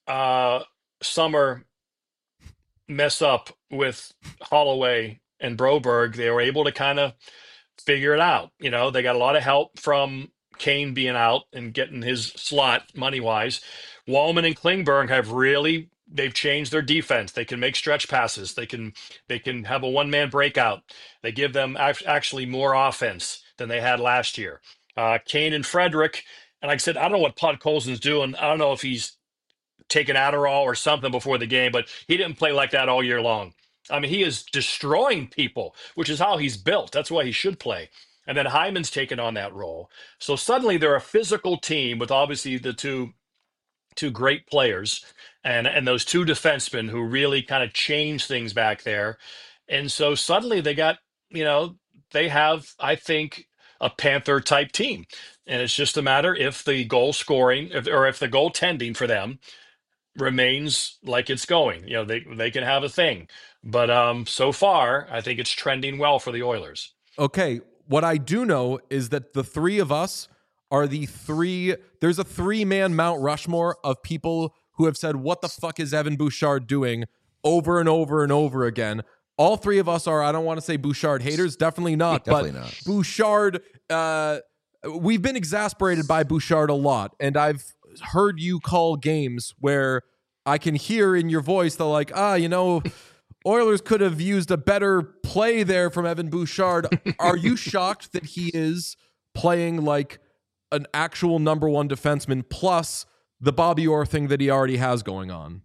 summer mess up with Holloway and Broberg, they were able to kind of figure it out. They got a lot of help from Kane being out and getting his slot money-wise. Walman and Klingberg they've changed their defense. They can make stretch passes. They can have a one-man breakout. They give them actually more offense than they had last year. Kane and Frederick, and like I said, I don't know what Podkolzin's doing. I don't know if he's taking Adderall or something before the game, but he didn't play like that all year long. I mean, he is destroying people, which is how he's built. That's why he should play. And then Hyman's taken on that role. So suddenly they're a physical team with obviously the two great players and those 2 defensemen who really kind of change things back there. And so suddenly they got, they have, I think, a Panther type team. And it's just a matter if the goal scoring or if the goaltending for them remains like it's going. They can have a thing. But so far, I think it's trending well for the Oilers. Okay, what I do know is that the three of us are there's a 3-man Mount Rushmore of people who have said, what the fuck is Evan Bouchard doing over and over and over again. All three of us are, I don't want to say Bouchard haters, definitely not. Definitely but not. Bouchard, we've been exasperated by Bouchard a lot. And I've heard you call games where I can hear in your voice the like, Oilers could have used a better play there from Evan Bouchard. Are you shocked that he is playing like an actual number one defenseman plus the Bobby Orr thing that he already has going on?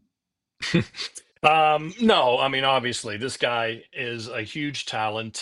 No, I mean, obviously, this guy is a huge talent.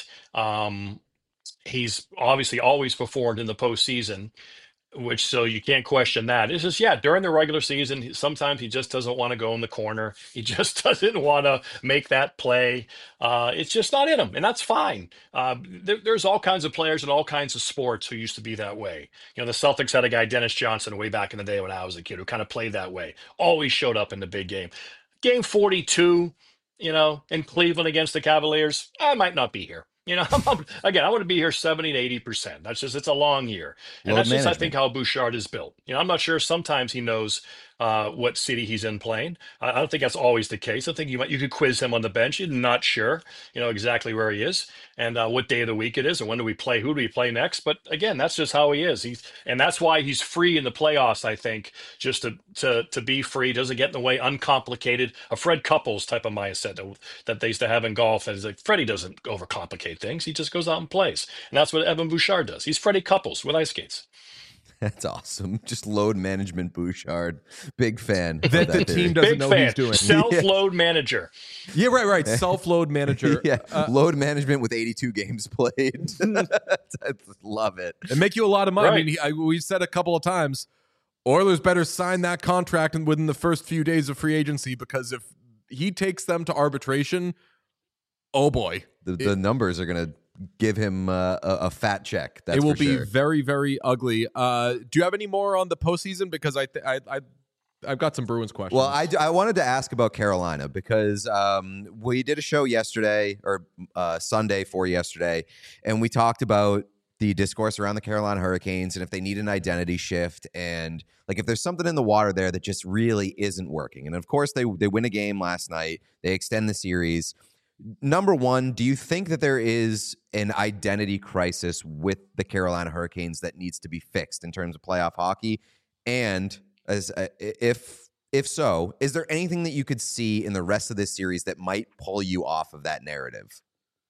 He's obviously always performed in the postseason, so you can't question that. It's just, during the regular season, sometimes he just doesn't want to go in the corner. He just doesn't want to make that play. It's just not in him, and that's fine. There's all kinds of players in all kinds of sports who used to be that way. The Celtics had a guy, Dennis Johnson, way back in the day when I was a kid, who kind of played that way. Always showed up in the big game. Game 42, in Cleveland against the Cavaliers, I might not be here. Again, I want to be here 70 to 80%. It's a long year. And Load that's just, I management. think, how Bouchard is built. I'm not sure. Sometimes he knows what city he's in playing. I don't think that's always the case. I think you could quiz him on the bench. You're not sure, exactly where he is and what day of the week it is and when do we play, who do we play next. But again, that's just how he is. And that's why he's free in the playoffs, I think, just to be free, doesn't get in the way, uncomplicated. A Fred Couples type of mindset that they used to have in golf. And it's like, Freddie doesn't overcomplicate things. He just goes out and plays. And that's what Evan Bouchard does. He's Freddie Couples with ice skates. That's awesome. Just load management Bouchard. Big fan. That the team doesn't Big know fan. what he's doing. Self-load manager. Yeah, right. Self-load manager. Yeah, load management with 82 games played. I love it. And make you a lot of money. Right. I mean, we've said a couple of times, Oilers better sign that contract within the first few days of free agency, because if he takes them to arbitration, oh boy. The numbers are going to give him a fat check. That's it will for be sure. very, very ugly. Do you have any more on the postseason? Because I've got some Bruins questions. Well, I wanted to ask about Carolina because we did a show yesterday or Sunday for yesterday, and we talked about the discourse around the Carolina Hurricanes and if they need an identity shift and like if there's something in the water there that just really isn't working. And of course, they win a game last night. They extend the series. Number one, do you think that there is an identity crisis with the Carolina Hurricanes that needs to be fixed in terms of playoff hockey? And if so, is there anything that you could see in the rest of this series that might pull you off of that narrative?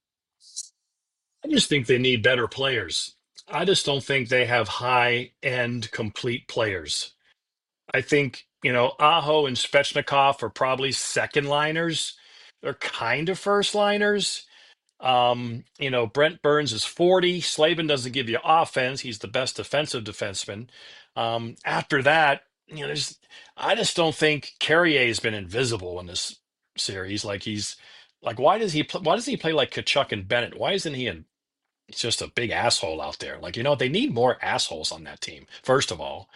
I just think they need better players. I just don't think they have high-end complete players. I think, Aho and Svechnikov are probably second liners. They're kind of first liners. Brent Burns is 40. Slavin doesn't give you offense. He's the best defensive defenseman. After that, I just don't think Carrier has been invisible in this series. Why does he play like Kachuk and Bennett? Why isn't he It's just a big asshole out there. They need more assholes on that team, first of all.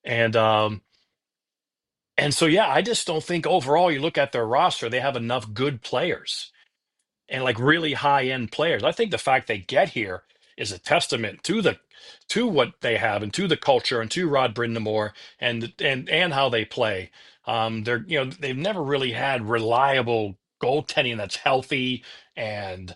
And so, I just don't think overall you look at their roster, they have enough good players and really high end players. I think the fact they get here is a testament to what they have and to the culture and to Rod Brind'Amour and how they play. They've never really had reliable goaltending that's healthy and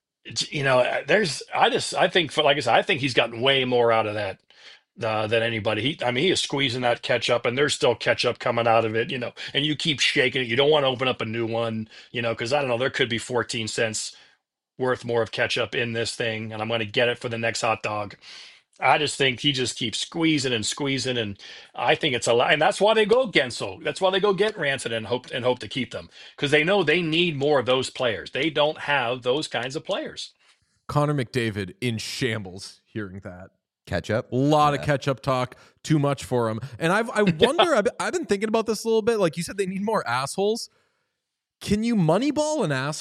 I think he's gotten way more out of that than anybody. He is squeezing that ketchup, and there's still ketchup coming out of it, and you keep shaking it. You don't want to open up a new one, because I don't know, there could be 14 cents worth more of ketchup in this thing, and I'm going to get it for the next hot dog. I just think he just keeps squeezing, and I think it's a lot, and that's why they go Gensel. That's why they go get Rancid and hope to keep them, because they know they need more of those players. They don't have those kinds of players. Connor McDavid in shambles hearing that. Ketchup? A lot of ketchup talk, too much for him. And I wonder, I've been thinking about this a little bit. Like you said, they need more assholes. Can you moneyball an asshole?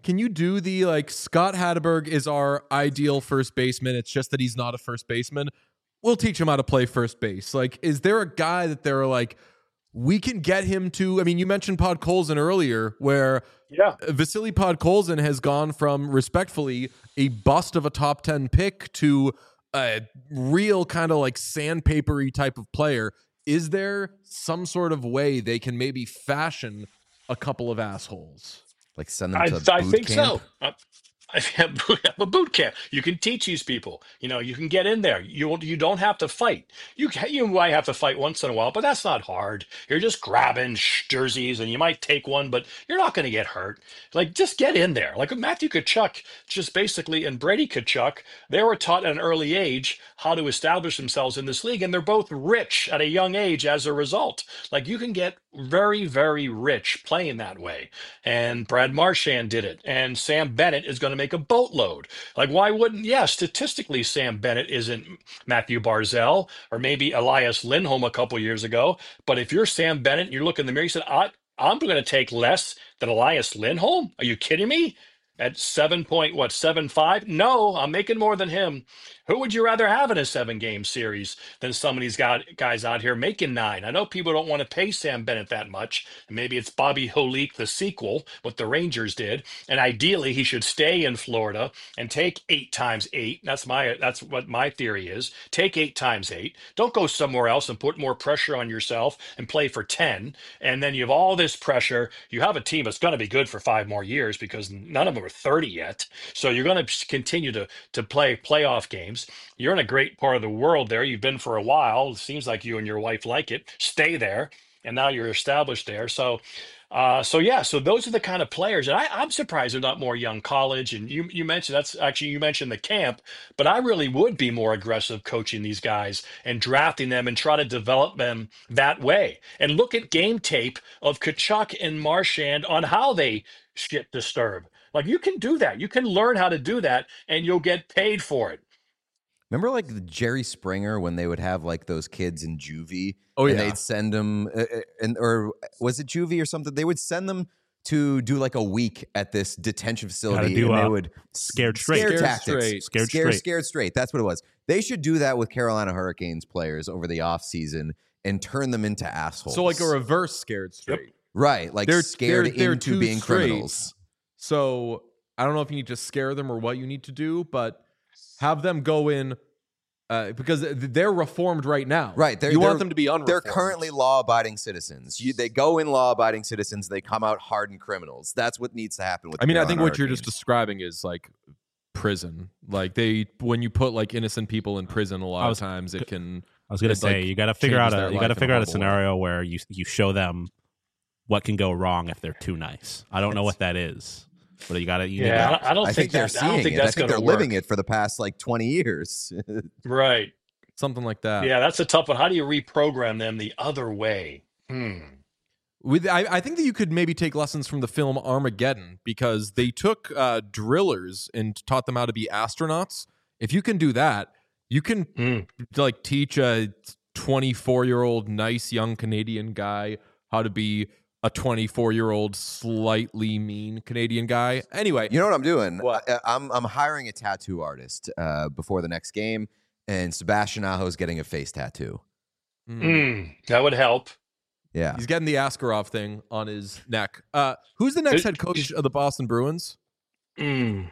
Can you do the like Scott Hatteberg is our ideal first baseman? It's just that he's not a first baseman. We'll teach him how to play first base. Like, is there a guy that they're like, we can get him to? I mean, you mentioned Podkolzin earlier, where Vasily Podkolzin has gone from respectfully a bust of a top 10 pick to a real kind of like sandpapery type of player. Is there some sort of way they can maybe fashion a couple of assholes? Like send them to boot I think camp? so. I have a boot camp. You can teach these people. You can get in there. You don't have to fight. You might have to fight once in a while, but that's not hard. You're just grabbing jerseys, and you might take one, but you're not going to get hurt. Like, just get in there. Like Matthew Tkachuk, just basically, and Brady Tkachuk, they were taught at an early age how to establish themselves in this league, and they're both rich at a young age as a result. Like, you can get very, very rich playing that way. And Brad Marchand did it, and Sam Bennett is going to make a boatload. Like, why wouldn't? Yeah, statistically, Sam Bennett isn't Matthew Barzal or maybe Elias Lindholm a couple years ago. But if you're Sam Bennett and you look in the mirror, you said, I'm going to take less than Elias Lindholm. Are you kidding me? At 7.75? No, I'm making more than him. Who would you rather have in a 7-game series than some of these guys out here making 9? I know people don't want to pay Sam Bennett that much. And maybe it's Bobby Holik, the sequel, what the Rangers did. And ideally, he should stay in Florida and take 8 times 8. That's what my theory is. Take 8 times 8. Don't go somewhere else and put more pressure on yourself and play for 10. And then you have all this pressure. You have a team that's going to be good for 5 more years because none of them are 30 yet. So you're going to continue to play playoff games. You're in a great part of the world there. You've been for a while. It seems like you and your wife like it. Stay there. And now you're established there. So those are the kind of players. And I'm surprised they're not more young college. And you mentioned you mentioned the camp, but I really would be more aggressive coaching these guys and drafting them and try to develop them that way. And look at game tape of Tkachuk and Marchand on how they shit disturb. Like, you can do that. You can learn how to do that, and you'll get paid for it. Remember, like the Jerry Springer when they would have like those kids in juvie, Oh, and yeah. they'd send them, or was it juvie or something? They would send them to do like a week at this detention facility, and they would scared straight. scare Scared tactics, straight. scared straight. That's what it was. They should do that with Carolina Hurricanes players over the offseason and turn them into assholes. So like a reverse scared straight. right, like They're scared they're into too being straight. criminals. So I don't know if you need to scare them or what you need to do, but have them go in because they're reformed right now. Right. You want them to be unreformed. They're currently law-abiding citizens. They go in law-abiding citizens. They come out hardened criminals. That's what needs to happen with I mean, I think Carolina what you're just Hurricanes. describing is like prison. Like when you put like innocent people in prison, a lot of times it can. I was going to say, like, you got to figure out changes their life in a a horrible scenario where you show them what can go wrong if they're too nice. I don't know what that is, but I don't I think they're seeing it. I think they're living it for the past like 20 years. Right. Something like that. Yeah, that's a tough one. How do you reprogram them the other way? I think that you could maybe take lessons from the film Armageddon because they took drillers and taught them how to be astronauts. If you can do that, you can like teach a 24-year-old nice young Canadian guy how to be a 24-year-old slightly mean Canadian guy. Anyway, You know what I'm doing? What? I'm hiring a tattoo artist before the next game, and Sebastian Aho's getting a face tattoo. That would help. Yeah. he's getting the Askarov thing on his neck. Who's the next head coach of the Boston Bruins? I'm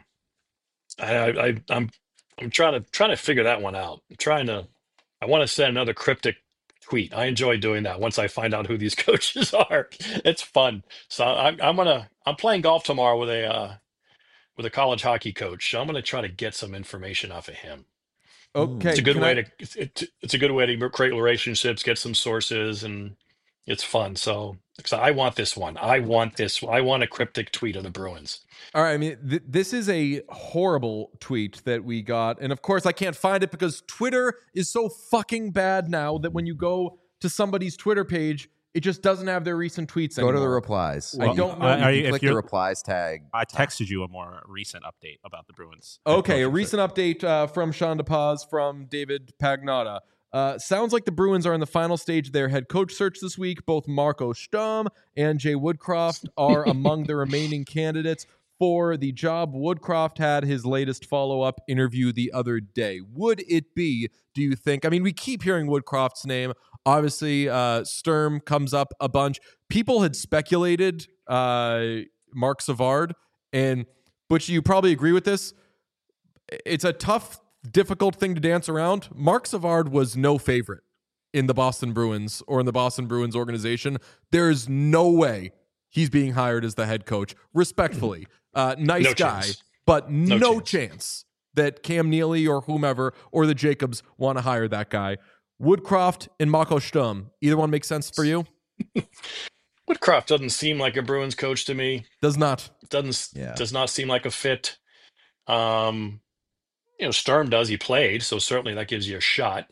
trying to figure that one out. I want to send another cryptic tweet. I enjoy doing that once I find out who these coaches are. It's fun. So I'm playing golf tomorrow with a college hockey coach. So I'm gonna try to get some information off of him. Okay, It's a good way to create relationships, get some sources, and it's fun. So I want this one. I want a cryptic tweet of the Bruins. All right, I mean, this is a horrible tweet that we got. And of course, I can't find it because Twitter is so fucking bad now that when you go to somebody's Twitter page, it just doesn't have their recent tweets Go anymore. to the replies. I don't know. You click the replies tag. I texted you a more recent update about the Bruins. Okay, a recent update from Sean DePaz from David Pagnotta. Sounds like the Bruins are in the final stage of their head coach search this week. Both Marco Sturm and Jay Woodcroft are among the remaining candidates. for the job. Woodcroft had his latest follow-up interview the other day. Would it be, do you think? I mean, we keep hearing Woodcroft's name. Obviously, Sturm comes up a bunch. People had speculated Mark Savard, and Butch, you probably agree with this. It's a tough, difficult thing to dance around. Mark Savard was no favorite in the Boston Bruins or in the Boston Bruins organization. There is no way he's being hired as the head coach. Respectfully, nice No guy, chance. but no chance that Cam Neely or whomever or the Jacobs want to hire that guy. Woodcroft and Mako Sturm, either one make sense for you? Woodcroft doesn't seem like a Bruins coach to me. Does not. Does not seem like a fit. Sturm does. He played, so certainly that gives you a shot.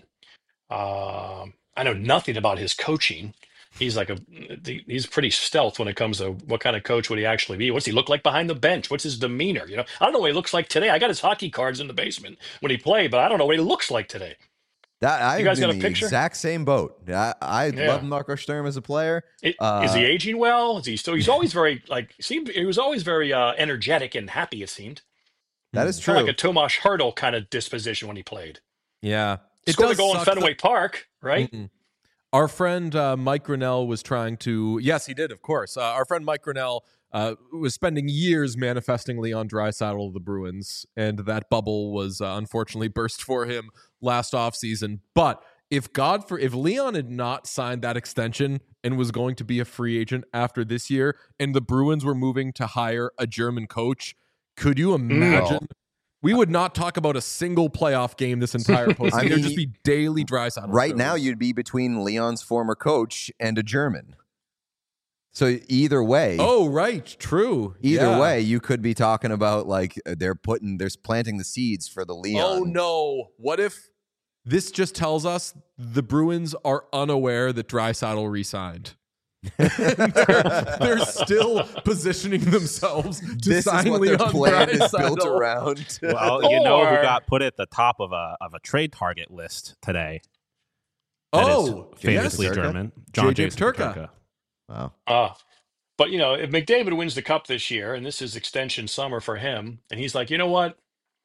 I know nothing about his coaching. He's he's pretty stealth when it comes to what kind of coach would he actually be. What's he look like behind the bench? What's his demeanor? I don't know what he looks like today. I got his hockey cards in the basement when he played, but I don't know what he looks like today. You guys got a picture? Exact same boat. I love Marco Sturm as a player. Is he aging well? Is he still? He's always very he was always very energetic and happy. It seemed that is true. Kind of like a Tomas Hertl kind of disposition when he played. Yeah, Scored a goal in Fenway Park, right? Mm-mm. Our friend Mike Grinnell was trying to. Yes, he did. Of course, our friend Mike Grinnell was spending years manifesting Leon Draisaitl of the Bruins, and that bubble was unfortunately burst for him last offseason. But if Leon had not signed that extension and was going to be a free agent after this year, and the Bruins were moving to hire a German coach, could you imagine? We would not talk about a single playoff game this entire postseason. It would just be daily Draisaitl. Right now, you'd be between Leon's former coach and a German. So either way. Oh, right. True. Either way, you could be talking about they're planting the seeds for the Leon. Oh, no. What if this just tells us the Bruins are unaware that Draisaitl re-signed? they're still positioning themselves to sign is what Leon their plan is Draisaitl. built around. Well, you know who got put at the top of a trade target list today? That is famously yes. German. John Jason Turka. Wow. But if McDavid wins the cup this year, and this is extension summer for him, and he's like, you know what?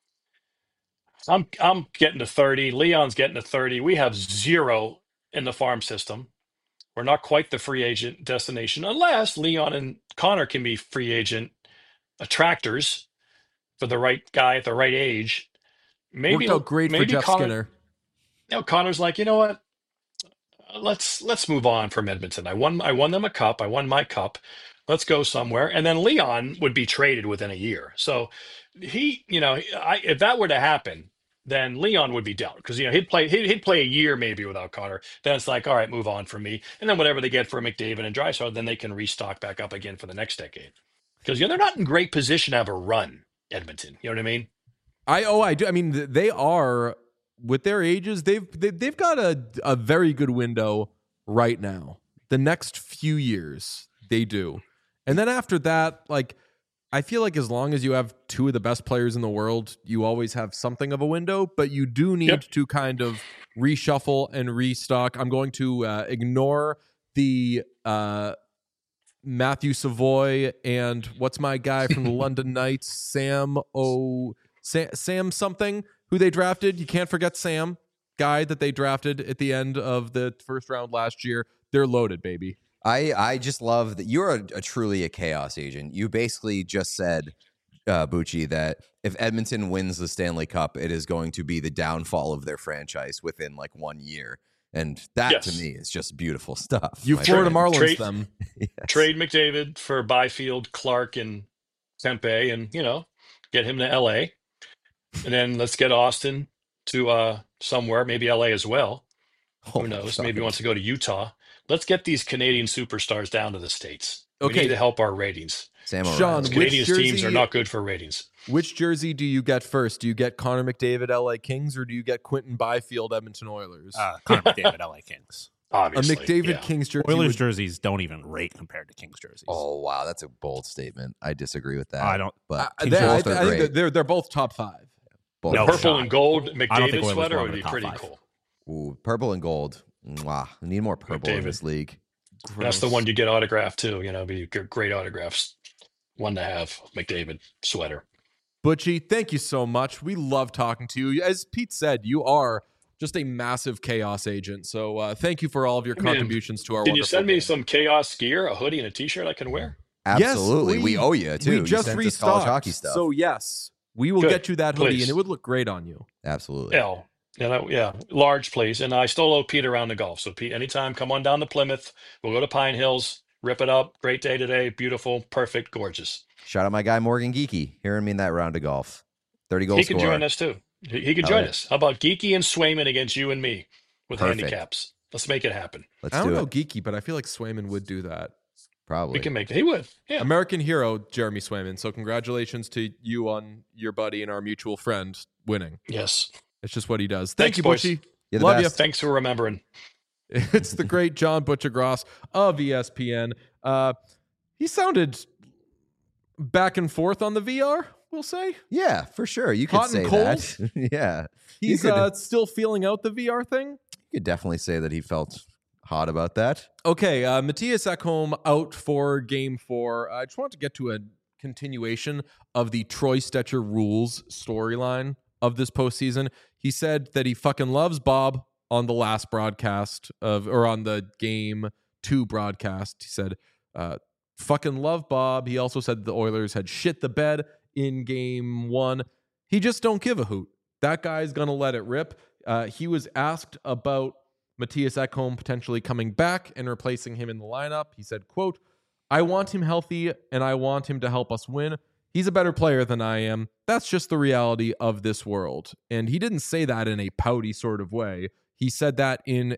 I'm getting to 30. Leon's getting to 30. We have 0 in the farm system. We're not quite the free agent destination unless Leon and Connor can be free agent attractors for the right guy at the right age. Maybe Worked out great for Jeff Skinner. Connor's like, you know what? Let's move on from Edmonton. I won them a cup. I won my cup. Let's go somewhere. And then Leon would be traded within a year. So if that were to happen, then Leon would be down because he'd play a year maybe without Connor. Then it's like, all right, move on from me. And then whatever they get for McDavid and Draisaitl, then they can restock back up again for the next decade. Because they're not in great position to have a run, Edmonton. You know what I mean? I do. I mean, they are with their ages. They've got a very good window right now. The next few years, they do, and then after that, I feel like as long as you have 2 of the best players in the world, you always have something of a window, but you do need to kind of reshuffle and restock. I'm going to ignore the Matthew Savoy and what's my guy from the London Knights, Sam something, who they drafted. You can't forget Sam, guy that they drafted at the end of the first round last year. They're loaded, baby. I just love that you're truly a chaos agent. You basically just said, Bucci, that if Edmonton wins the Stanley Cup, it is going to be the downfall of their franchise within 1 year. And that to me is just beautiful stuff. You Florida Marlins them. Yes. Trade McDavid for Byfield, Clark, and Tempe, and get him to LA. And then let's get Austin to somewhere, maybe LA as well. Who knows? Maybe he wants to go to Utah. Let's get these Canadian superstars down to the States. Okay. We need to help our ratings. Sean, Canadian teams are not good for ratings. Which jersey do you get first? Do you get Connor McDavid, LA Kings, or do you get Quentin Byfield, Edmonton Oilers? Connor McDavid, LA Kings. Obviously. A McDavid Kings jersey. Oilers jerseys don't even rate compared to Kings jerseys. Oh, wow. That's a bold statement. I disagree with that. I don't. But I think they're both top 5. No purple and gold McDavid sweater would be pretty cool. Ooh, purple and gold. Mwah. We need more purple in this league. That's the one you get autographed too. Be great autographs. one to have McDavid sweater. Butchie, thank you so much. We love talking to you. As Pete said, you are just a massive chaos agent. So thank you for all of your contributions to our Can you wonderful send me game. some chaos gear, a hoodie, and a T-shirt I can wear? Absolutely. Yes, we owe you, too. We You just sent us restocked. college hockey stuff. So, yes, we will Good. get you that hoodie, Please. and it would look great on you. Absolutely. Yeah, large, please. And I still owe Pete around the golf. So, Pete, anytime, come on down to Plymouth. We'll go to Pine Hills, rip it up. Great day today. Beautiful, perfect, gorgeous. Shout out my guy, Morgan Geeky, hearing me in that round of golf. 30 goal He scorer. could join us, too. He could Hell join yeah. us. How about Geeky and Swayman against you and me with Perfect. handicaps? Let's make it happen. Let's I don't do know it. geeky, but I feel like Swayman would do that. Probably. We can make it. He would. Yeah. American hero, Jeremy Swayman. So congratulations to you on your buddy and our mutual friend winning. Yes. It's just what he does. Thank Thanks, you, boys. Butchie. You're the Love best. Thanks for remembering. you. It's the great John Butcher-Gross of ESPN. He sounded back and forth on the VR, we'll say. Yeah, for sure. You could Hot say and cold? that. Yeah. He's you could, still feeling out the VR thing. you could definitely say that he felt hot about that. Okay, Matthias Ekholm out for Game 4. I just wanted to get to a continuation of the Troy Stecher rules storyline of this postseason. He said that he fucking loves Bob on the last broadcast or on the Game 2 broadcast. He said, fucking love Bob. He also said the Oilers had shit the bed in Game 1. He just don't give a hoot. That guy's going to let it rip. He was asked about Matthias Ekholm potentially coming back and replacing him in the lineup. He said, quote, I want him healthy and I want him to help us win. He's a better player than I am. That's just the reality of this world. And he didn't say that in a pouty sort of way. He said that in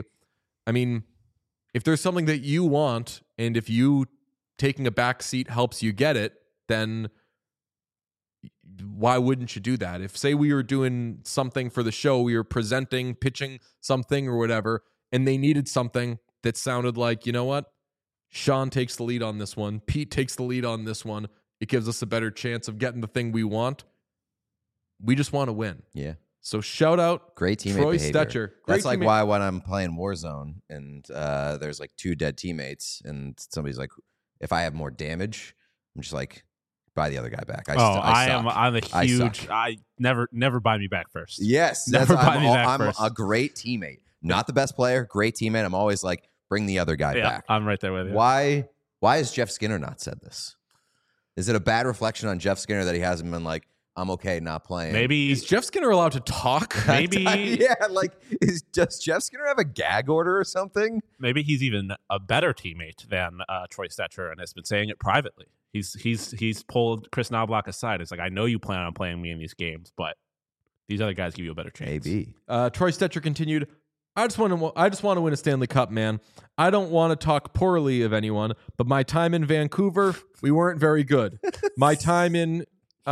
if there's something that you want and if you taking a back seat helps you get it, then why wouldn't you do that? If, say, we were doing something for the show, we were presenting, pitching something or whatever, and they needed something that sounded like, you know what? Sean takes the lead on this one. Pete takes the lead on this one. It gives us a better chance of getting the thing we want. We just want to win. Yeah. So shout out Great teammate Troy behavior. Stecher. That's like teammate. why when I'm playing Warzone and there's like 2 dead teammates and somebody's like, if I have more damage, I'm just like, buy the other guy back. I'm a huge. suck. I never buy me back first. Yes. Never buy me back I'm first. a great teammate. Not the best player, great teammate. I'm always like, bring the other guy Yeah, back. I'm right there with you. Why has Jeff Skinner not said this? Is it a bad reflection on Jeff Skinner that he hasn't been like, I'm okay not playing? Maybe Is Jeff Skinner allowed to talk? Maybe Yeah, like, does Jeff Skinner have a gag order or something? maybe he's even a better teammate than Troy Stecher and has been saying it privately. He's pulled Chris Knobloch aside. It's like, I know you plan on playing me in these games, but these other guys give you a better chance. Maybe. Troy Stecher continued, I just want to win a Stanley Cup, man. I don't want to talk poorly of anyone, but my time in Vancouver, we weren't very good. My time in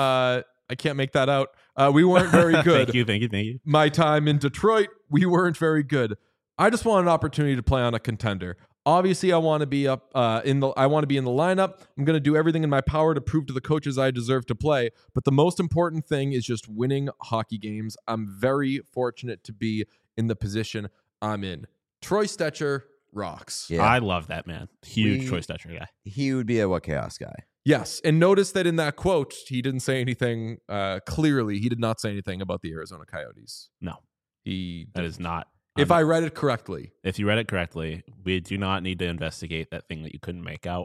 I can't make that out. We weren't very good. Thank you. My time in Detroit, we weren't very good. I just want an opportunity to play on a contender. Obviously, I want to be I want to be in the lineup. I'm going to do everything in my power to prove to the coaches I deserve to play. But the most important thing is just winning hockey games. I'm very fortunate to be in the position I'm in. Troy Stecher rocks. Yeah. I love that man. Huge Troy Stecher guy. He would be a What Chaos guy. Yes, and notice that in that quote, he didn't say anything clearly. He did not say anything about the Arizona Coyotes. No, He that is not. If I read it correctly. If you read it correctly, we do not need to investigate that thing that you couldn't make out.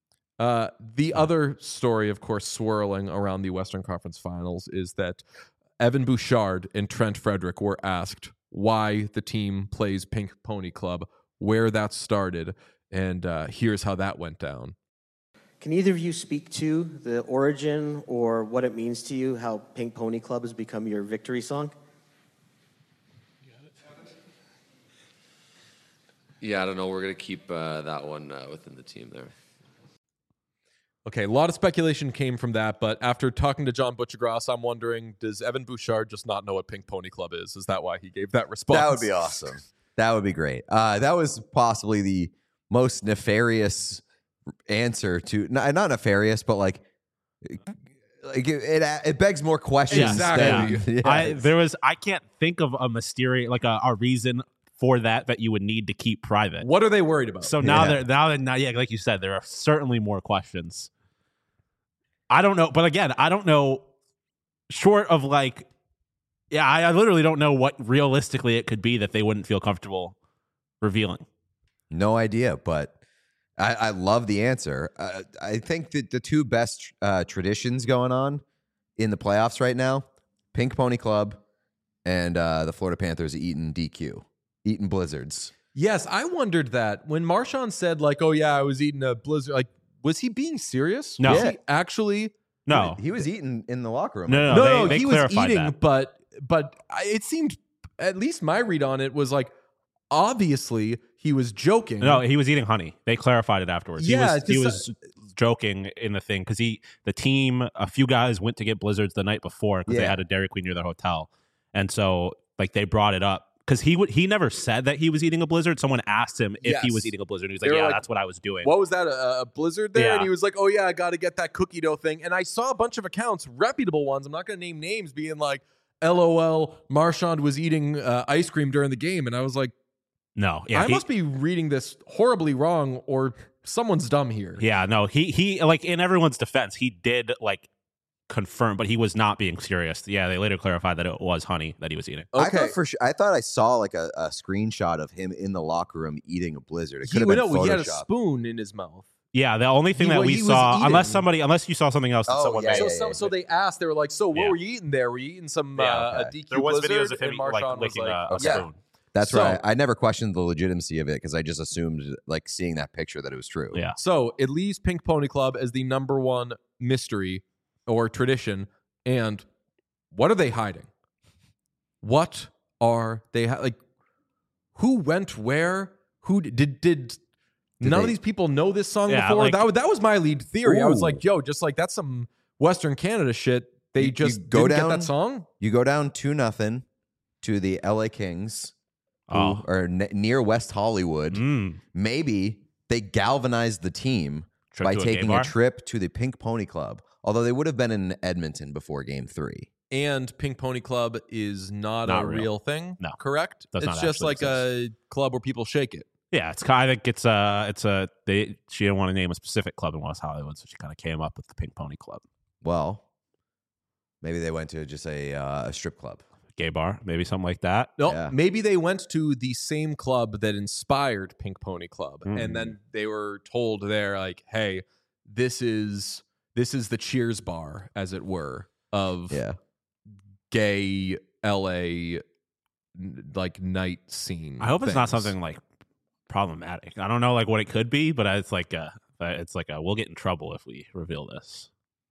The other story, of course, swirling around the Western Conference Finals is that Evan Bouchard and Trent Frederick were asked why the team plays Pink Pony Club, where that started, and here's how that went down. Can either of you speak to the origin or what it means to you, how Pink Pony Club has become your victory song? Yeah, I don't know. We're going to keep that one within the team there. Okay, a lot of speculation came from that, but after talking to John Butcher-Gross, I'm wondering, does Evan Bouchard just not know what Pink Pony Club is? Is that why he gave that response? That would be awesome. That would be great. That was possibly the most nefarious answer to not nefarious, but like it begs more questions. Exactly. I can't think of a mysterious a reason for that you would need to keep private. What are they worried about? So now like you said, there are certainly more questions. I don't know. But again, I don't know. Short of like, yeah, I literally don't know what realistically it could be that they wouldn't feel comfortable revealing. No idea, but I love the answer. I think that the two best traditions going on in the playoffs right now, Pink Pony Club and the Florida Panthers eating blizzards. Yes, I wondered that when Marshawn said like, "Oh yeah, I was eating a blizzard." Like, was he being serious? No. Was he actually? No, He was eating in the locker room. No, they he was clarified eating, that. but it seemed, at least my read on it was like, obviously he was joking. No, he was eating honey. They clarified it afterwards. Yeah, he was joking in the thing because the team, a few guys went to get blizzards the night before because they had a Dairy Queen near their hotel, and so like they brought it up because he never said that he was eating a blizzard. Someone asked him if he was eating a blizzard. He was like, "Yeah, that's what I was doing." What was that? A blizzard there? Yeah. And he was like, "Oh yeah, I got to get that cookie dough thing." And I saw a bunch of accounts, reputable ones. I'm not going to name names, being like, "LOL, Marshawn was eating ice cream during the game," and I was like, No, yeah, I must be reading this horribly wrong, or someone's dumb here. Yeah, no, he like in everyone's defense, he did like confirm, but he was not being serious. Yeah, they later clarified that it was honey that he was eating. Okay. I thought I saw like a screenshot of him in the locker room eating a blizzard. It could have He been had a Photoshop. spoon in his mouth. Yeah, the only thing He that wa- we he was saw, eating. unless you saw something else that Oh, someone yeah, made. yeah, So they asked, they were like, "So what Yeah. were you eating there? Were you eating some Yeah, a DQ There was blizzard?" videos of him And like Marshawn was licking like, a "Yeah." spoon. That's So- right. I never questioned the legitimacy of it because I just assumed, like, seeing that picture, that it was true. Yeah. So it leaves Pink Pony Club as the number one mystery or tradition. And what are they hiding? What are they like? Who went where? Who did none of they- these people know this song Yeah, before? like- That was my lead theory. I was Ooh. like, yo, just like that's some Western Canada shit. They You just go didn't down- get that song. You go down 2-0 to the LA Kings, who Oh. are near West Hollywood. Mm. Maybe they galvanized the team Trip by to a gay taking bar? a trip to the Pink Pony Club, although they would have been in Edmonton before Game 3. And Pink Pony Club is not Not a real. real thing. No. Correct? Does It's not just actually like a club where people shake it. Yeah, I think it's a she didn't want to name a specific club in West Hollywood, so she kind of came up with the Pink Pony Club. Well, maybe they went to just a strip club. Gay bar, maybe something like that. No, Yeah. maybe they went to the same club that inspired Pink Pony Club, Mm. and then they were told there, like, "Hey, this is the Cheers bar, as it were, of Yeah. gay LA like night scene." I hope it's not things. something like problematic. I don't know like what it could be, but it's like we'll get in trouble if we reveal this.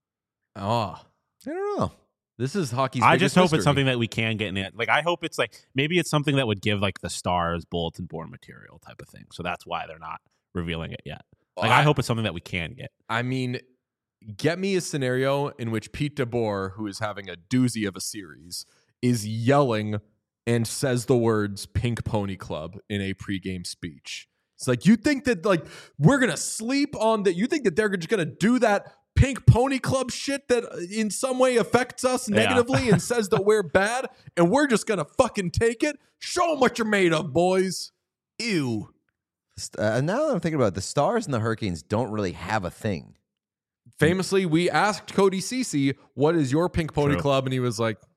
Oh, I don't know. this is hockey's. I biggest just hope mystery. it's something that we can get in it. Like I hope it's like maybe it's something that would give like the Stars bulletin board material type of thing. So that's why they're not revealing it yet. Like I hope it's something that we can get. I mean, get me a scenario in which Pete DeBoer, who is having a doozy of a series, is yelling and says the words Pink Pony Club in a pregame speech. It's like, you think that like we're going to sleep on that? You think that they're just going to do that Pink Pony Club shit that in some way affects us negatively and says that we're bad and we're just going to fucking take it? Show them what you're made of, boys. Ew. Now that I'm thinking about it, the Stars and the Hurricanes don't really have a thing. Famously, we asked Cody Cece, what is your Pink Pony True. Club? And he was like,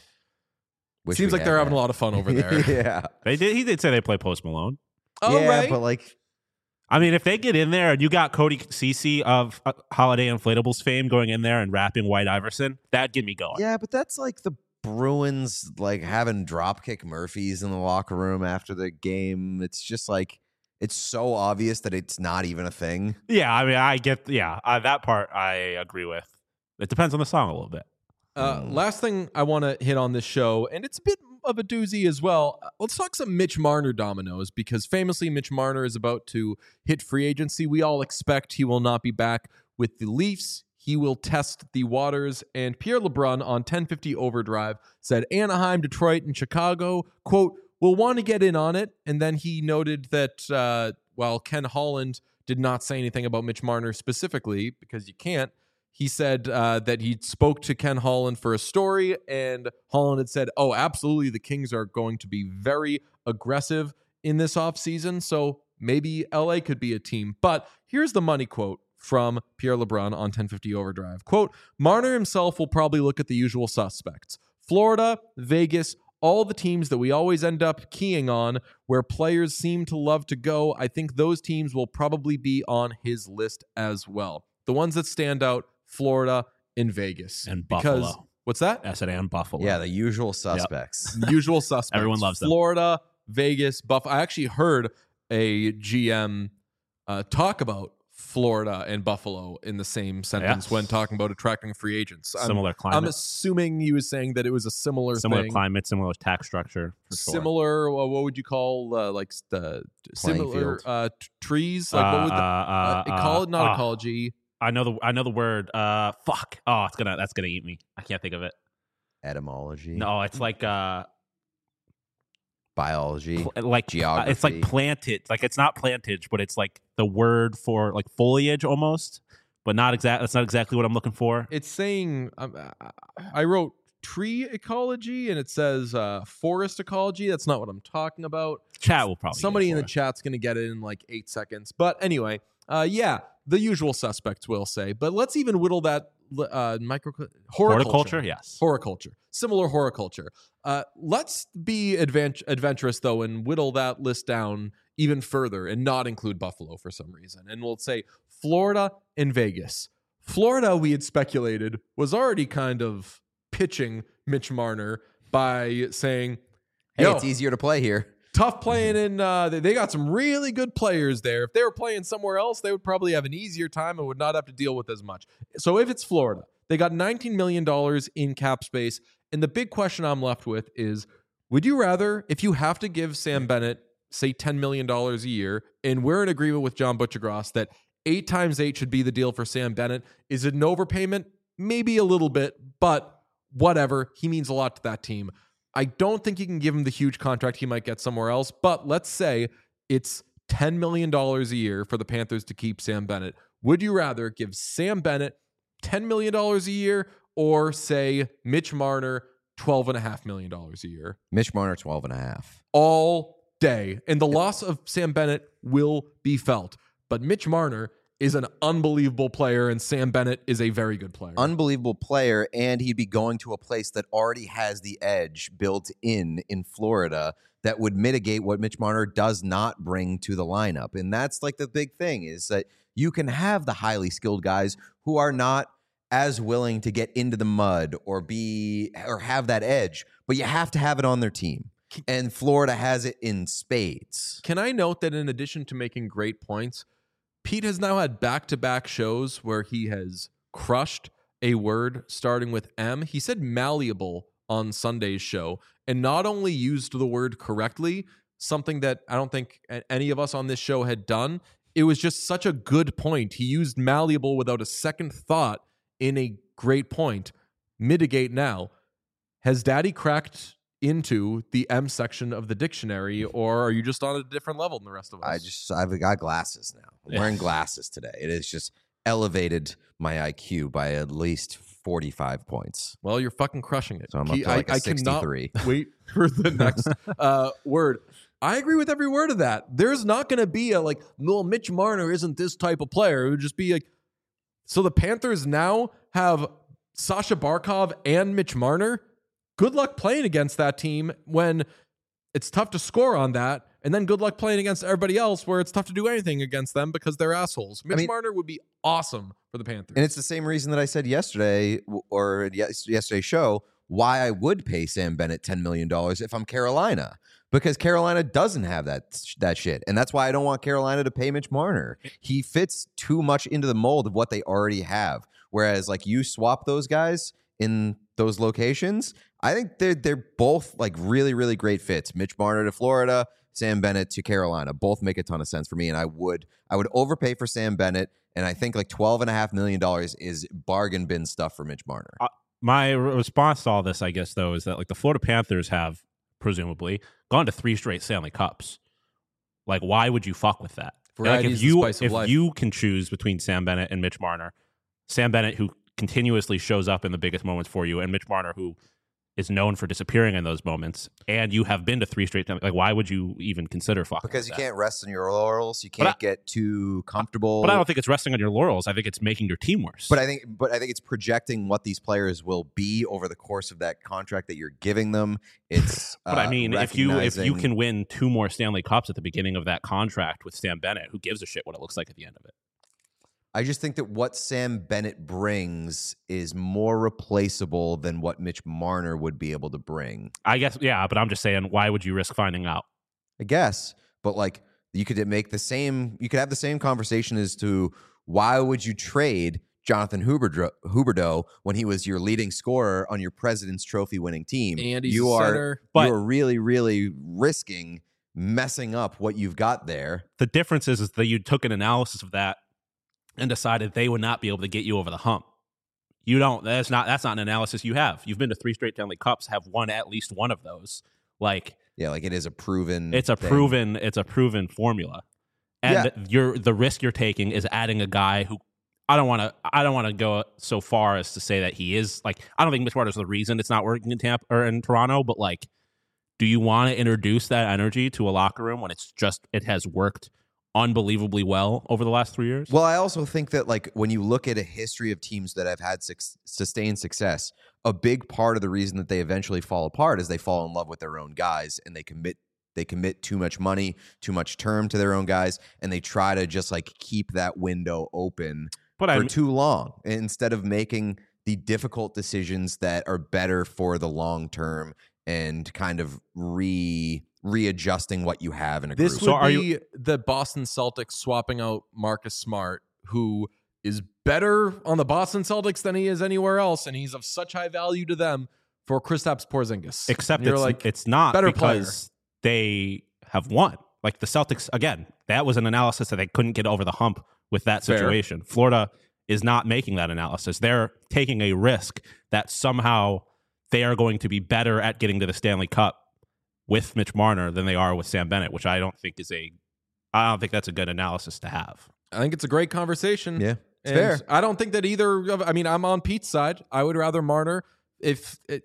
Wish seems we like they're had having that. a lot of fun over there. Yeah. He did say they play Post Malone. Oh, yeah, right. but like, I mean, if they get in there and you got Cody Cece of Holiday Inflatables fame going in there and rapping White Iverson, that'd get me going. yeah, but that's like the Bruins like having Dropkick Murphys in the locker room after the game. It's just like, it's so obvious that it's not even a thing. Yeah, I mean, I get, that part I agree with. It depends on the song a little bit. Last thing I want to hit on this show, and it's a bit of a doozy as well. Let's talk some Mitch Marner dominoes, because famously Mitch Marner is about to hit free agency. We all expect he will not be back with the Leafs. He will test the waters. And Pierre LeBrun on 1050 Overdrive said Anaheim, Detroit, and Chicago, quote, will want to get in on it. And then he noted that while Ken Holland did not say anything about Mitch Marner specifically, because you can't, he said that he spoke to Ken Holland for a story, and Holland had said, oh, absolutely, the Kings are going to be very aggressive in this offseason, so maybe LA could be a team. But here's the money quote from Pierre LeBrun on 1050 Overdrive. Quote, Marner himself will probably look at the usual suspects. Florida, Vegas, all the teams that we always end up keying on where players seem to love to go. I think those teams will probably be on his list as well. The ones that stand out, Florida and Vegas. And because, Buffalo. What's that? I said and Buffalo. Yeah, the usual suspects. Usual suspects. Everyone loves them. Florida, Vegas, Buffalo. I actually heard a GM talk about Florida and Buffalo in the same sentence when talking about attracting free agents. Similar climate. I'm assuming he was saying that it was a similar thing. Climate, similar tax structure. For sure. Similar, what would you call like the similar trees? Like what would not ecology. I know the word. Fuck. Oh, that's gonna eat me. I can't think of it. Etymology. No, it's like biology, like geography. It's like planted. Like it's not plantage, but it's like the word for like foliage almost, but not exact. That's not exactly what I'm looking for. It's saying I wrote tree ecology and it says forest ecology. That's not what I'm talking about. Chat will probably. Somebody in the chat's gonna get it in like 8 seconds. But anyway, yeah, the usual suspects will say. But let's even whittle that horticulture. Yes, horticulture. Similar horticulture. Let's be adventurous, though, and whittle that list down even further and not include Buffalo for some reason. And we'll say Florida and Vegas. Florida, we had speculated, was already kind of pitching Mitch Marner by saying, hey, it's easier to play here. Tough playing in, they got some really good players there. If they were playing somewhere else, they would probably have an easier time and would not have to deal with as much. So if it's Florida, they got $19 million in cap space. And the big question I'm left with is, would you rather, if you have to give Sam Bennett, say $10 million a year, and we're in agreement with John Butchergross that 8 times 8 should be the deal for Sam Bennett, is it an overpayment? Maybe a little bit, but whatever. He means a lot to that team. I don't think you can give him the huge contract he might get somewhere else, but let's say it's $10 million a year for the Panthers to keep Sam Bennett. Would you rather give Sam Bennett $10 million a year or say Mitch Marner $12.5 million a year? Mitch Marner, 12.5. All day. And the loss of Sam Bennett will be felt. But Mitch Marner is an unbelievable player, and Sam Bennett is a very good player. Unbelievable player, and he'd be going to a place that already has the edge built in Florida that would mitigate what Mitch Marner does not bring to the lineup. And that's like the big thing, is that you can have the highly skilled guys who are not as willing to get into the mud or have that edge, but you have to have it on their team. And Florida has it in spades. Can I note that in addition to making great points, Pete has now had back-to-back shows where he has crushed a word starting with M. He said malleable on Sunday's show and not only used the word correctly, something that I don't think any of us on this show had done. It was just such a good point. He used malleable without a second thought in a great point. Mitigate now. Has Daddy cracked into the M section of the dictionary, or are you just on a different level than the rest of us? I've got glasses now. I'm wearing glasses today. It has just elevated my IQ by at least 45 points. Well, you're fucking crushing it. So I'm up to like a 63. Cannot wait for the next word. I agree with every word of that. There's not going to be a no, Mitch Marner isn't this type of player. It would just be like, so the Panthers now have Sasha Barkov and Mitch Marner. Good luck playing against that team when it's tough to score on that. And then good luck playing against everybody else where it's tough to do anything against them because they're assholes. Mitch Marner would be awesome for the Panthers. And it's the same reason that I said yesterday or yesterday's show why I would pay Sam Bennett $10 million if I'm Carolina. Because Carolina doesn't have that shit. And that's why I don't want Carolina to pay Mitch Marner. He fits too much into the mold of what they already have. Whereas you swap those guys in those locations, I think they're both really, really great fits. Mitch Marner to Florida, Sam Bennett to Carolina. Both make a ton of sense for me. And I would overpay for Sam Bennett. And I think $12.5 million is bargain bin stuff for Mitch Marner. My response to all this, I guess, though, is that the Florida Panthers have presumably gone to 3 straight Stanley Cups. Why would you fuck with that? If you can choose between Sam Bennett and Mitch Marner, Sam Bennett, who continuously shows up in the biggest moments for you, and Mitch Marner, who is known for disappearing in those moments, and you have been to 3 straight times. Like, why would you even consider fucking? Because you with that? can't rest on your laurels. You can't get too comfortable. But I don't think it's resting on your laurels. I think it's making your team worse. But I think it's projecting what these players will be over the course of that contract that you're giving them. It's but I mean, if you recognizing- can win 2 more Stanley Cups at the beginning of that contract with Sam Bennett, who gives a shit what it looks like at the end of it? I just think that what Sam Bennett brings is more replaceable than what Mitch Marner would be able to bring. I guess, yeah, but I'm just saying, why would you risk finding out? I guess, but like you could have the same conversation as to why would you trade Jonathan Huberdeau when he was your leading scorer on your President's Trophy winning team. And he's you a are center. you are really, really risking messing up what you've got there. The difference is that you took an analysis of that and decided they would not be able to get you over the hump. You don't. That's not an analysis you have. You've been to 3 straight Stanley Cups, have won at least one of those. Like, yeah, like it is a proven. It's a thing. proven formula, and the risk you're taking is adding a guy who I don't want to go so far as to say that he is like, I don't think Mitch Marner's the reason it's not working in Tampa or in Toronto, but like, do you want to introduce that energy to a locker room when it has worked unbelievably well over the last 3 years? Well, I also think that like when you look at a history of teams that have had sustained success, a big part of the reason that they eventually fall apart is they fall in love with their own guys and they commit too much money, too much term to their own guys, and they try to just like keep that window open for too long instead of making the difficult decisions that are better for the long term and kind of readjusting what you have in a group. This would be the Boston Celtics swapping out Marcus Smart, who is better on the Boston Celtics than he is anywhere else, and he's of such high value to them, for Kristaps Porzingis. Except it's not better because they have won. Like the Celtics, again, that was an analysis that they couldn't get over the hump with that situation. Fair. Florida is not making that analysis. They're taking a risk that somehow they are going to be better at getting to the Stanley Cup with Mitch Marner than they are with Sam Bennett, which I don't think that's a good analysis to have. I think it's a great conversation. Yeah, it's and fair. I don't think that I'm on Pete's side. I would rather Marner and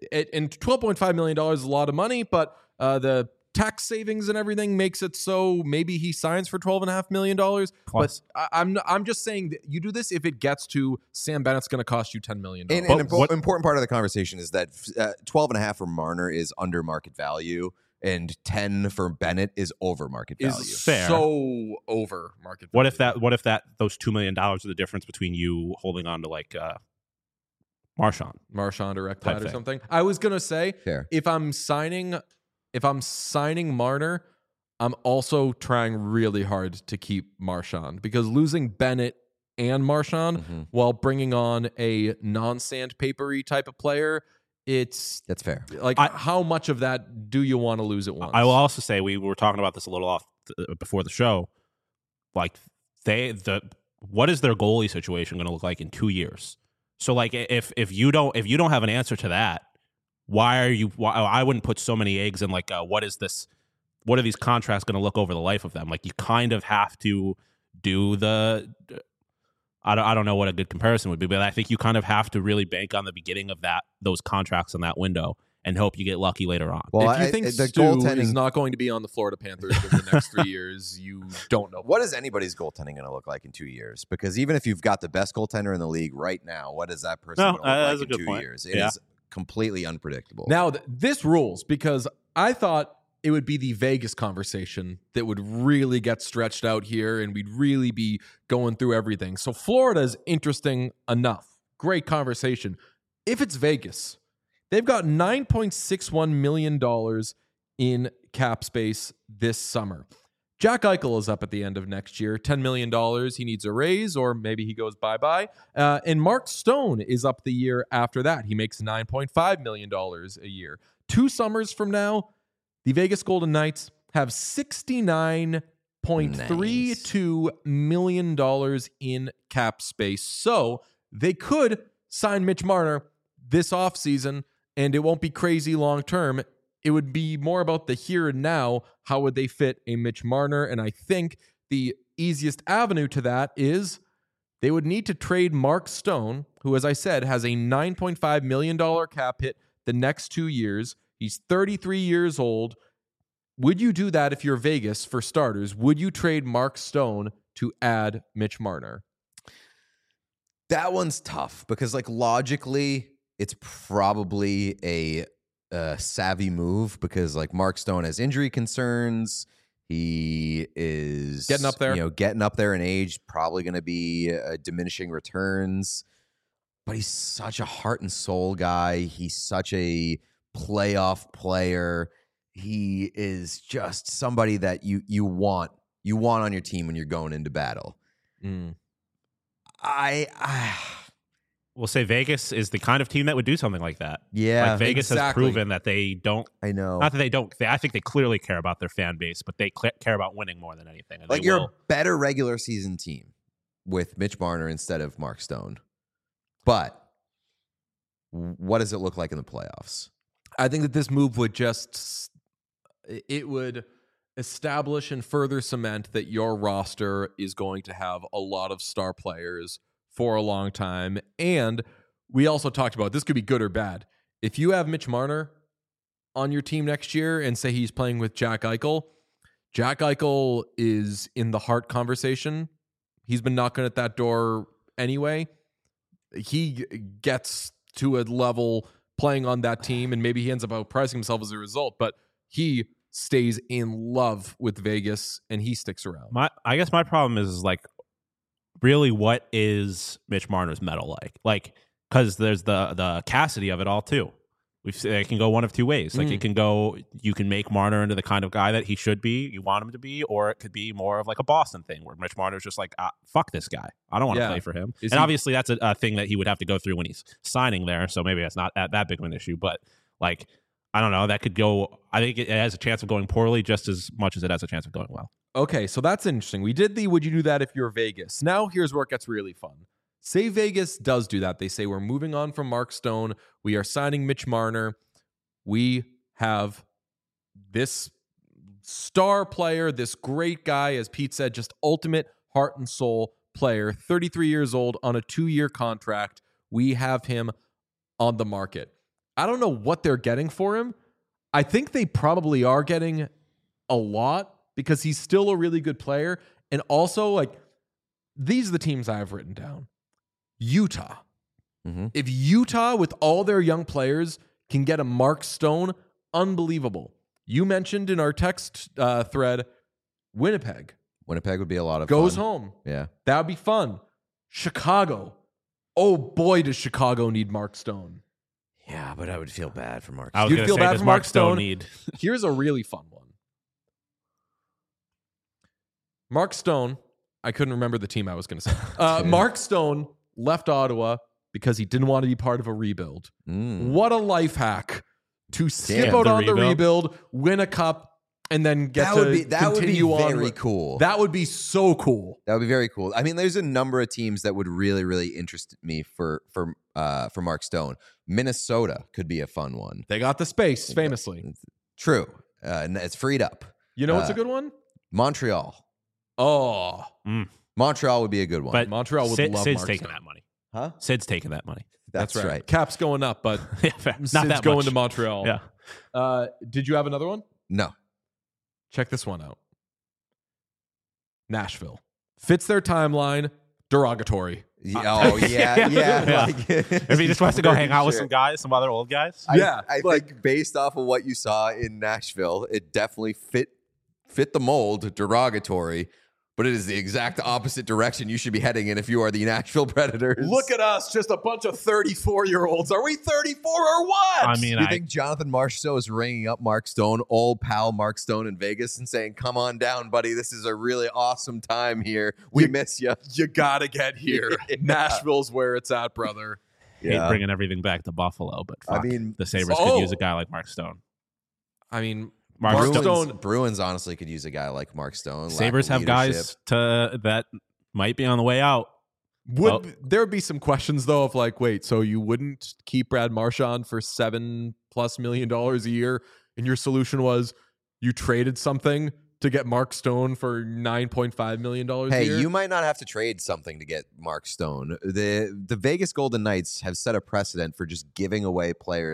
$12.5 million is a lot of money, but the tax savings and everything makes it so maybe he signs for $12.5 million. Plus. But I'm just saying that you do this if it gets to Sam Bennett's going to cost you $10 million. And an important part of the conversation is that 12.5 for Marner is under market value, and 10 for Bennett is over market value. Is fair. So over market value. What if those $2 million are the difference between you holding on to like Marchand direct plat or something? I was gonna say if I'm signing Marner, I'm also trying really hard to keep Marchand, because losing Bennett and Marchand while bringing on a non-sandpapery type of player, that's fair. Like, how much of that do you want to lose at once? I will also say, we were talking about this a little off before the show. Like, what is their goalie situation going to look like in 2 years? So, like, if you don't have an answer to that, why I wouldn't put so many eggs in like, what are these contracts going to look over the life of them? Like, you kind of have to do I don't know what a good comparison would be, but I think you kind of have to really bank on the beginning of those contracts in that window and hope you get lucky later on. Well, if you think the goaltending is not going to be on the Florida Panthers in the next 3 years, you don't know. What is anybody's goaltending going to look like in 2 years? Because even if you've got the best goaltender in the league right now, what is that person going to look like in 2 years? It is completely unpredictable. Now, this rules, because I thought it would be the Vegas conversation that would really get stretched out here, and we'd really be going through everything. So Florida is interesting enough. Great conversation. If it's Vegas, they've got $9.61 million in cap space this summer. Jack Eichel is up at the end of next year, $10 million. He needs a raise, or maybe he goes bye-bye. And Mark Stone is up the year after that. He makes $9.5 million a year. 2 summers from now, the Vegas Golden Knights have $69.32 million in cap space. So they could sign Mitch Marner this offseason, and it won't be crazy long-term. It would be more about the here and now. How would they fit a Mitch Marner? And I think the easiest avenue to that is they would need to trade Mark Stone, who, as I said, has a $9.5 million cap hit the next 2 years. He's 33 years old. Would you do that if you're Vegas, for starters? Would you trade Mark Stone to add Mitch Marner? That one's tough because, like, logically, it's probably a savvy move because, like, Mark Stone has injury concerns. He is getting up there, getting up there in age, probably going to be diminishing returns. But he's such a heart and soul guy. He's such a playoff player. He is just somebody that you want on your team when you're going into battle. I will say Vegas is the kind of team that would do something like that. Yeah, like Vegas has proven that they don't. I know. Not that they don't. I think they clearly care about their fan base, but they care about winning more than anything. And like you're a better regular season team with Mitch Marner instead of Mark Stone. But what does it look like in the playoffs? I think that this move would would establish and further cement that your roster is going to have a lot of star players for a long time. And we also talked about this could be good or bad. If you have Mitch Marner on your team next year and say he's playing with Jack Eichel is in the Hart conversation. He's been knocking at that door anyway. He gets to a level playing on that team, and maybe he ends up outpricing himself as a result, but he stays in love with Vegas and he sticks around. I guess my problem is like, really, what is Mitch Marner's medal like? Like, because there's the Cassidy of it all too. It can go one of two ways. Like it can go, you can make Marner into the kind of guy that he should be, you want him to be, or it could be more of like a Boston thing where Mitch Marner's just like, fuck this guy. I don't want to play for him. Obviously that's a thing that he would have to go through when he's signing there. So maybe that's not that big of an issue. But like, I don't know. That could go, I think it has a chance of going poorly just as much as it has a chance of going well. Okay, so that's interesting. We did the would you do that if you're Vegas. Now here's where it gets really fun. Say Vegas does do that. They say we're moving on from Mark Stone. We are signing Mitch Marner. We have this star player, this great guy, as Pete said, just ultimate heart and soul player, 33 years old on a 2-year contract. We have him on the market. I don't know what they're getting for him. I think they probably are getting a lot because he's still a really good player. And also, like, these are the teams I have written down. Utah. Mm-hmm. If Utah, with all their young players, can get a Mark Stone, unbelievable. You mentioned in our text thread, Winnipeg. Winnipeg would be a lot of Goes fun. home. Yeah. That would be fun. Chicago. Oh, boy, does Chicago need Mark Stone. Yeah, but I would feel bad for Mark. You'd feel bad for Mark Stone. Need? Here's a really fun one. Mark Stone, I couldn't remember the team I was going to say. Mark Stone left Ottawa because he didn't want to be part of a rebuild. What a life hack to skip out on the rebuild, win a cup, and then get that would be very cool. That would be so cool. That would be very cool. I mean, there's a number of teams that would really, really interest me for Mark Stone. Minnesota could be a fun one. They got the space, famously. True. It's freed up. You know what's a good one? Montreal. Oh. Montreal would be a good one. But Montreal would love Sid's Mark taking Stone. that money. Huh? Sid's taking that money. That's right. Cap's going up, but Yeah, fair. Not Sid's that going much. to Montreal. Yeah. Did you have another one? No. Check this one out. Nashville. Fits their timeline. Derogatory. Oh, yeah. Yeah. Like, If he just wants to go hang out with some guys, some other old guys. I think based off of what you saw in Nashville, it definitely fit the mold, derogatory, but it is the exact opposite direction you should be heading in if you are the Nashville Predators. Look at us, just a bunch of 34-year-olds. Are we 34 or what? I mean, Do you think Jonathan Marchessault is ringing up Mark Stone, old pal Mark Stone in Vegas, and saying, come on down, buddy. This is a really awesome time here. We miss you. You got to get here. Nashville's where it's at, brother. hate bringing everything back to Buffalo, but fuck, I mean, the Sabres could use a guy like Mark Stone. I mean, Mark Bruins honestly could use a guy like Mark Stone. Sabres have guys that might be on the way out. There would be some questions though of like, wait, so you wouldn't keep Brad Marchand for $7+ million a year, and your solution was you traded something to get Mark Stone for $9.5 million a year? Hey, you might not have to trade something to get Mark Stone. The Vegas Golden Knights have set a precedent for just giving away players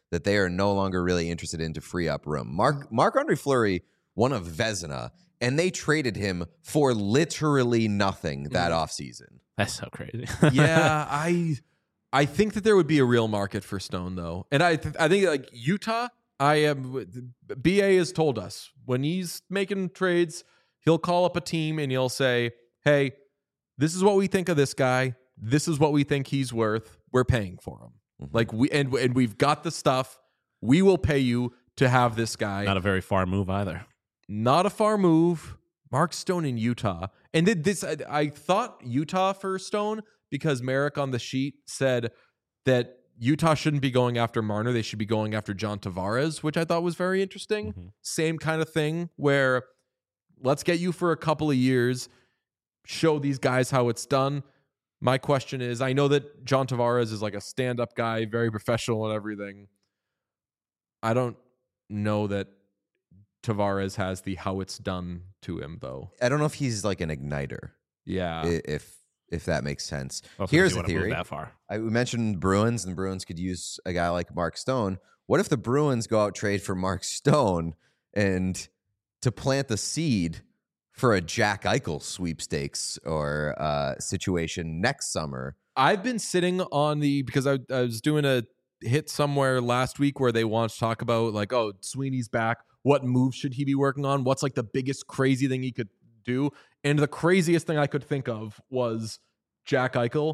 that they are no longer really interested in to free up room. Marc-Andre Fleury won a Vezina, and they traded him for literally nothing that offseason. That's so crazy. Yeah, I think that there would be a real market for Stone, though. And I think like Utah, BA has told us when he's making trades, he'll call up a team and he'll say, hey, this is what we think of this guy. This is what we think he's worth. We're paying for him. Mm-hmm. Like we've got the stuff. We will pay you to have this guy. Not a very far move either. Not a far move. Mark Stone in Utah. And I thought Utah for Stone because Merrick on the sheet said that Utah shouldn't be going after Marner. They should be going after John Tavares, which I thought was very interesting. Mm-hmm. Same kind of thing where let's get you for a couple of years, show these guys how it's done. My question is, I know that John Tavares is like a stand-up guy, very professional and everything. I don't know that Tavares has the how it's done to him, though. I don't know if he's like an igniter. Yeah. If that makes sense. Also, Here's if you a wanna move theory. that far. We mentioned Bruins, and the Bruins could use a guy like Mark Stone. What if the Bruins go out trade for Mark Stone and to plant the seed for a Jack Eichel sweepstakes or situation next summer? I've been sitting on because I was doing a hit somewhere last week where they want to talk about like, oh, Sweeney's back. What moves should he be working on? What's like the biggest crazy thing he could do? And the craziest thing I could think of was Jack Eichel.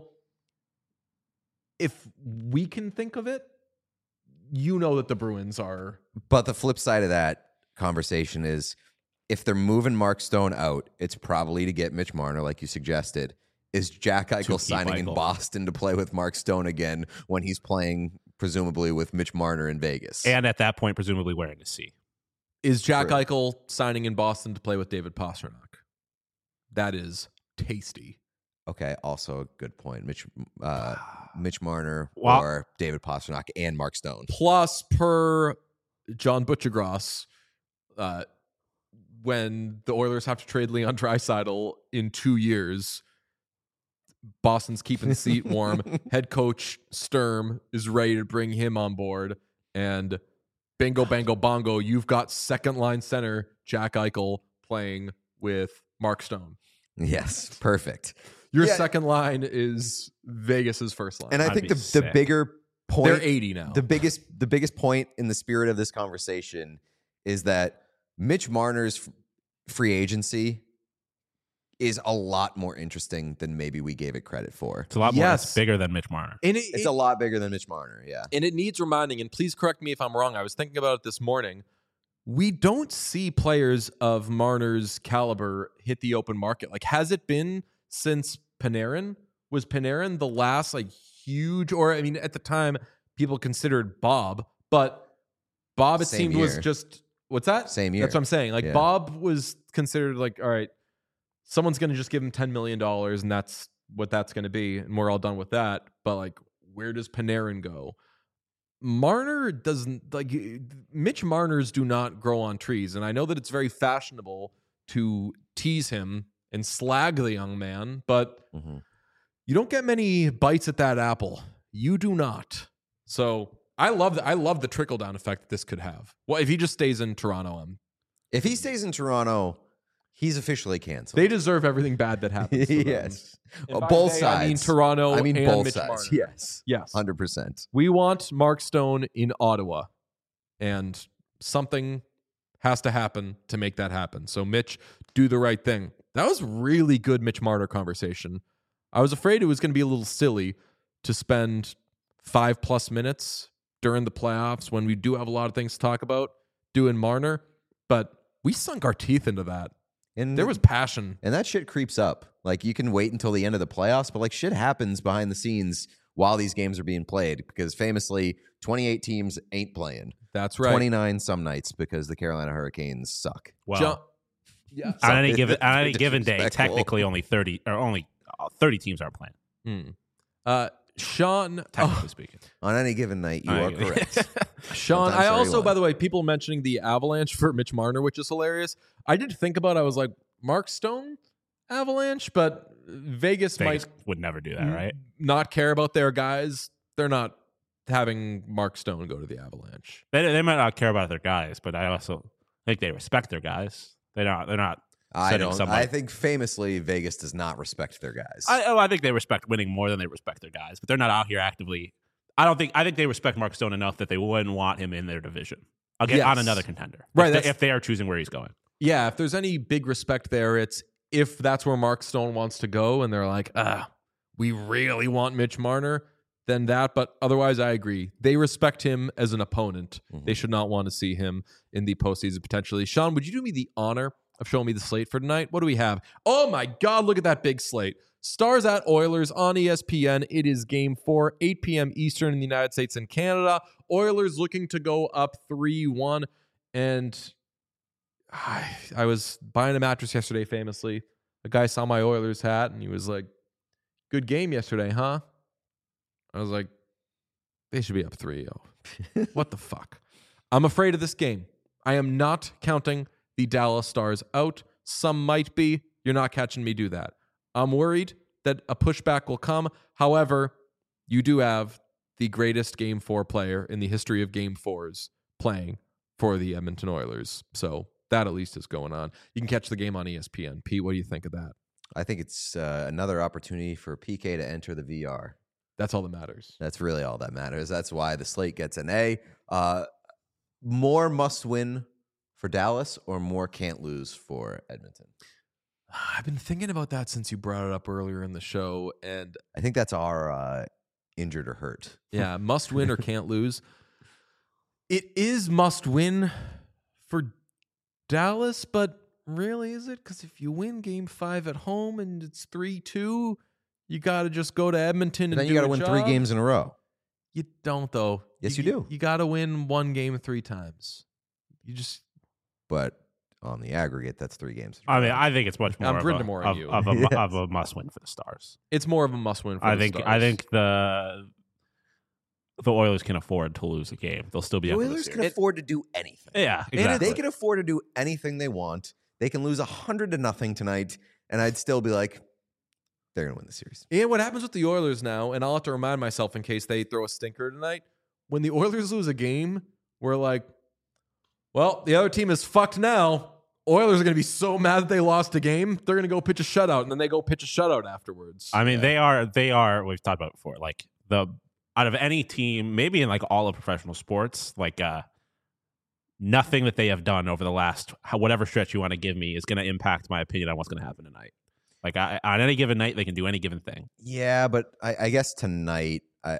If we can think of it, you know that the Bruins are. But the flip side of that conversation is if they're moving Mark Stone out, it's probably to get Mitch Marner, like you suggested. Is Jack Eichel signing in Boston to play with Mark Stone again when he's playing presumably with Mitch Marner in Vegas? And at that point, presumably wearing a C. Is Jack Eichel signing in Boston to play with David Pastrnak? That is tasty. Okay, also a good point. Mitch Marner or David Pastrnak and Mark Stone. Plus, per John Butchergross, when the Oilers have to trade Leon Draisaitl in 2 years, Boston's keeping the seat warm. Head coach Sturm is ready to bring him on board. And bingo, bango, bongo, you've got second-line center Jack Eichel playing with Mark Stone. Yes, perfect. Your second line is Vegas's first line. And I think the bigger point, they're 80 now. The biggest point in the spirit of this conversation is that Mitch Marner's free agency is a lot more interesting than maybe we gave it credit for. It's a lot more. It's bigger than Mitch Marner. And it's a lot bigger than Mitch Marner, yeah. And it needs reminding, and please correct me if I'm wrong. I was thinking about it this morning. We don't see players of Marner's caliber hit the open market. Like, has it been since Panarin? Was Panarin the last like huge, or I mean, at the time people considered Bob, but Bob it seemed was just what's that? Same year. That's what I'm saying. Like Bob was considered like, all right, someone's going to just give him $10 million, and that's what that's going to be, and we're all done with that. But like, where does Panarin go? Marner doesn't like Mitch Marners do not grow on trees, and I know that it's very fashionable to tease him and slag the young man, but you don't get many bites at that apple. You do not. So I love the trickle down effect that this could have. Well, if he just stays in Toronto, if he stays in Toronto, he's officially canceled. They deserve everything bad that happens. Yes, both sides. I mean Toronto. I mean and both Mitch sides. Marner. Yes, 100%. We want Mark Stone in Ottawa, and something has to happen to make that happen. So Mitch, do the right thing. That was really good Mitch Marner conversation. I was afraid it was going to be a little silly to spend 5+ minutes during the playoffs when we do have a lot of things to talk about doing Marner, but we sunk our teeth into that. And there was passion. And that shit creeps up. Like, you can wait until the end of the playoffs, but like shit happens behind the scenes while these games are being played, because famously 28 teams ain't playing. That's right. 29 some nights because the Carolina Hurricanes suck. Well, on any given day, technically only 30 teams are playing. Sean, technically speaking, on any given night, you are correct. Sean, I also, by the way, people mentioning the Avalanche for Mitch Marner, which is hilarious. I did think about it. I was like, Mark Stone Avalanche, but Vegas might would never do that, right? Not care about their guys. They're not having Mark Stone go to the Avalanche. They might not care about their guys, but I also think they respect their guys. They're not. I don't. I think famously Vegas does not respect their guys. I think they respect winning more than they respect their guys, but they're not out here actively. I think they respect Mark Stone enough that they wouldn't want him in their division. I'll get on another contender, right? If they are choosing where he's going. Yeah, if there's any big respect there, it's if that's where Mark Stone wants to go, and they're like, we really want Mitch Marner, then that. But otherwise, I agree. They respect him as an opponent. They should not want to see him in the postseason potentially. Sean, would you do me the honor of showing me the slate for tonight? What do we have? Oh my God, look at that big slate. Stars at Oilers on ESPN. It is game 4, 8 p.m. Eastern in the United States and Canada. Oilers looking to go up 3-1. And I was buying a mattress yesterday, famously. A guy saw my Oilers hat, and he was like, good game yesterday, huh? I was like, they should be up 3-0. What the fuck? I'm afraid of this game. I am not counting the Dallas Stars out. Some might be. You're not catching me do that. I'm worried that a pushback will come. However, you do have the greatest Game 4 player in the history of Game 4s playing for the Edmonton Oilers. So that at least is going on. You can catch the game on ESPN. Pete, what do you think of that? I think it's another opportunity for PK to enter the VR. That's all that matters. That's really all that matters. That's why the slate gets an A. More must win for Dallas or more can't lose for Edmonton? I've been thinking about that since you brought it up earlier in the show, and I think that's our injured or hurt. Yeah, must win or can't lose. It is must win for Dallas, but really is it? Because if you win Game 5 at home and it's 3-2, you got to just go to Edmonton and then you got to win 3 games in a row. You don't, though. Yes, you do. You got to win one game 3 times. But on the aggregate, that's 3 games. I mean, I think it's much more of a must win for the Stars. It's more of a must win for the Stars. I think the Oilers can afford to lose a game. They'll still be the Oilers can afford to do anything. Yeah, exactly. They can afford to do anything they want. They can lose 100-0 tonight, and I'd still be like, they're going to win the series. And what happens with the Oilers now, and I'll have to remind myself in case they throw a stinker tonight, when the Oilers lose a game, we're like, well, the other team is fucked now. Oilers are going to be so mad that they lost a game, they're going to go pitch a shutout, and then they go pitch a shutout afterwards. I mean, they are, we've talked about it before, like out of any team, maybe in like all of professional sports, like nothing that they have done over the last, whatever stretch you want to give me, is going to impact my opinion on what's going to happen tonight. Like on any given night, they can do any given thing. Yeah, but I guess tonight,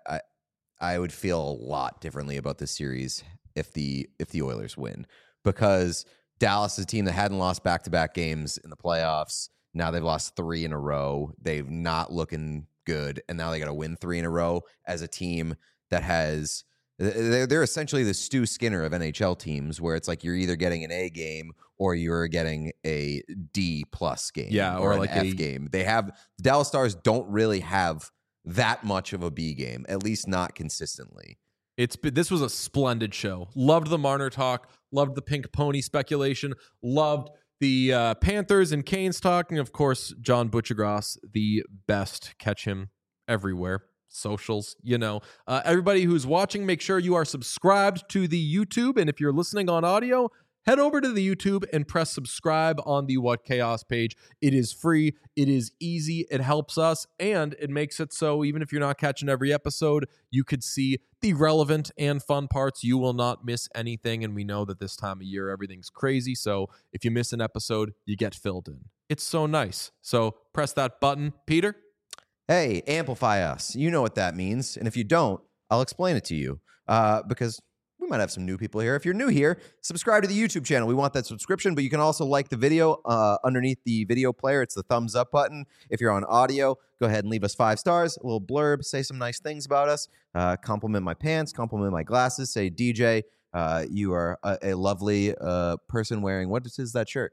I would feel a lot differently about this series if the Oilers win, because Dallas is a team that hadn't lost back-to-back games in the playoffs. Now they've lost 3 in a row. They've not looking good, and now they got to win 3 in a row as a team that has. They're essentially the Stu Skinner of NHL teams, where it's like you're either getting an A game or you're getting a D+ game, or like an F game. They have the Dallas Stars don't really have that much of a B game, at least not consistently. This was a splendid show. Loved the Marner talk. Loved the Pink Pony speculation. Loved the Panthers and Canes talk. And, of course, John Butchergross, the best. Catch him everywhere. Socials, everybody who's watching, make sure you are subscribed to the YouTube. And if you're listening on audio, head over to the YouTube and press subscribe on the What Chaos page. It is free. It is easy. It helps us. And it makes it so even if you're not catching every episode, you could see the relevant and fun parts. You will not miss anything. And we know that this time of year, everything's crazy. So if you miss an episode, you get filled in. It's so nice. So press that button. Peter? Hey, amplify us. You know what that means. And if you don't, I'll explain it to you because we might have some new people here. If you're new here, subscribe to the YouTube channel. We want that subscription, but you can also like the video underneath the video player. It's the thumbs up button. If you're on audio, go ahead and leave us 5 stars, a little blurb, say some nice things about us, compliment my pants, compliment my glasses, say, DJ, you are a lovely person wearing, what is that shirt?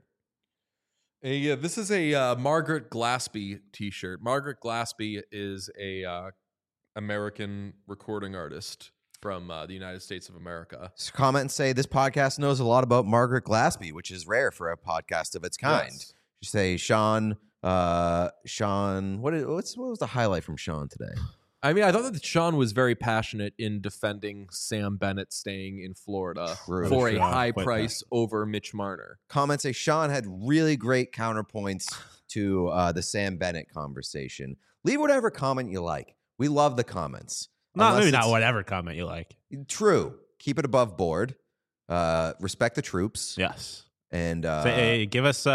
This is a Margaret Glaspie t-shirt. Margaret Glaspie is a American recording artist from the United States of America. So comment and say this podcast knows a lot about Margaret Glaspie, which is rare for a podcast of its kind. Yes. You say Sean. What was the highlight from Sean today? I mean, I thought that Sean was very passionate in defending Sam Bennett staying in Florida True. for a Should high quit price over Mitch Marner. Comments say Sean had really great counterpoints to the Sam Bennett conversation. Leave whatever comment you like. We love the comments. Maybe Unless not it's- whatever comment you like. True. Keep it above board. Respect the troops. Yes. And Say, give us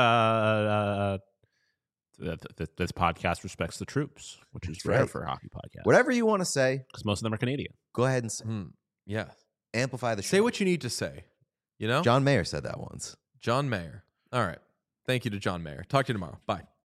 this podcast respects the troops, which is rare right. for a hockey podcast. whatever you want to say, Because most of them are Canadian. go ahead and say. Yeah. Amplify the Say show. what you need to say. You know? John Mayer said that once. John Mayer. All right. Thank you to John Mayer. Talk to you tomorrow. Bye.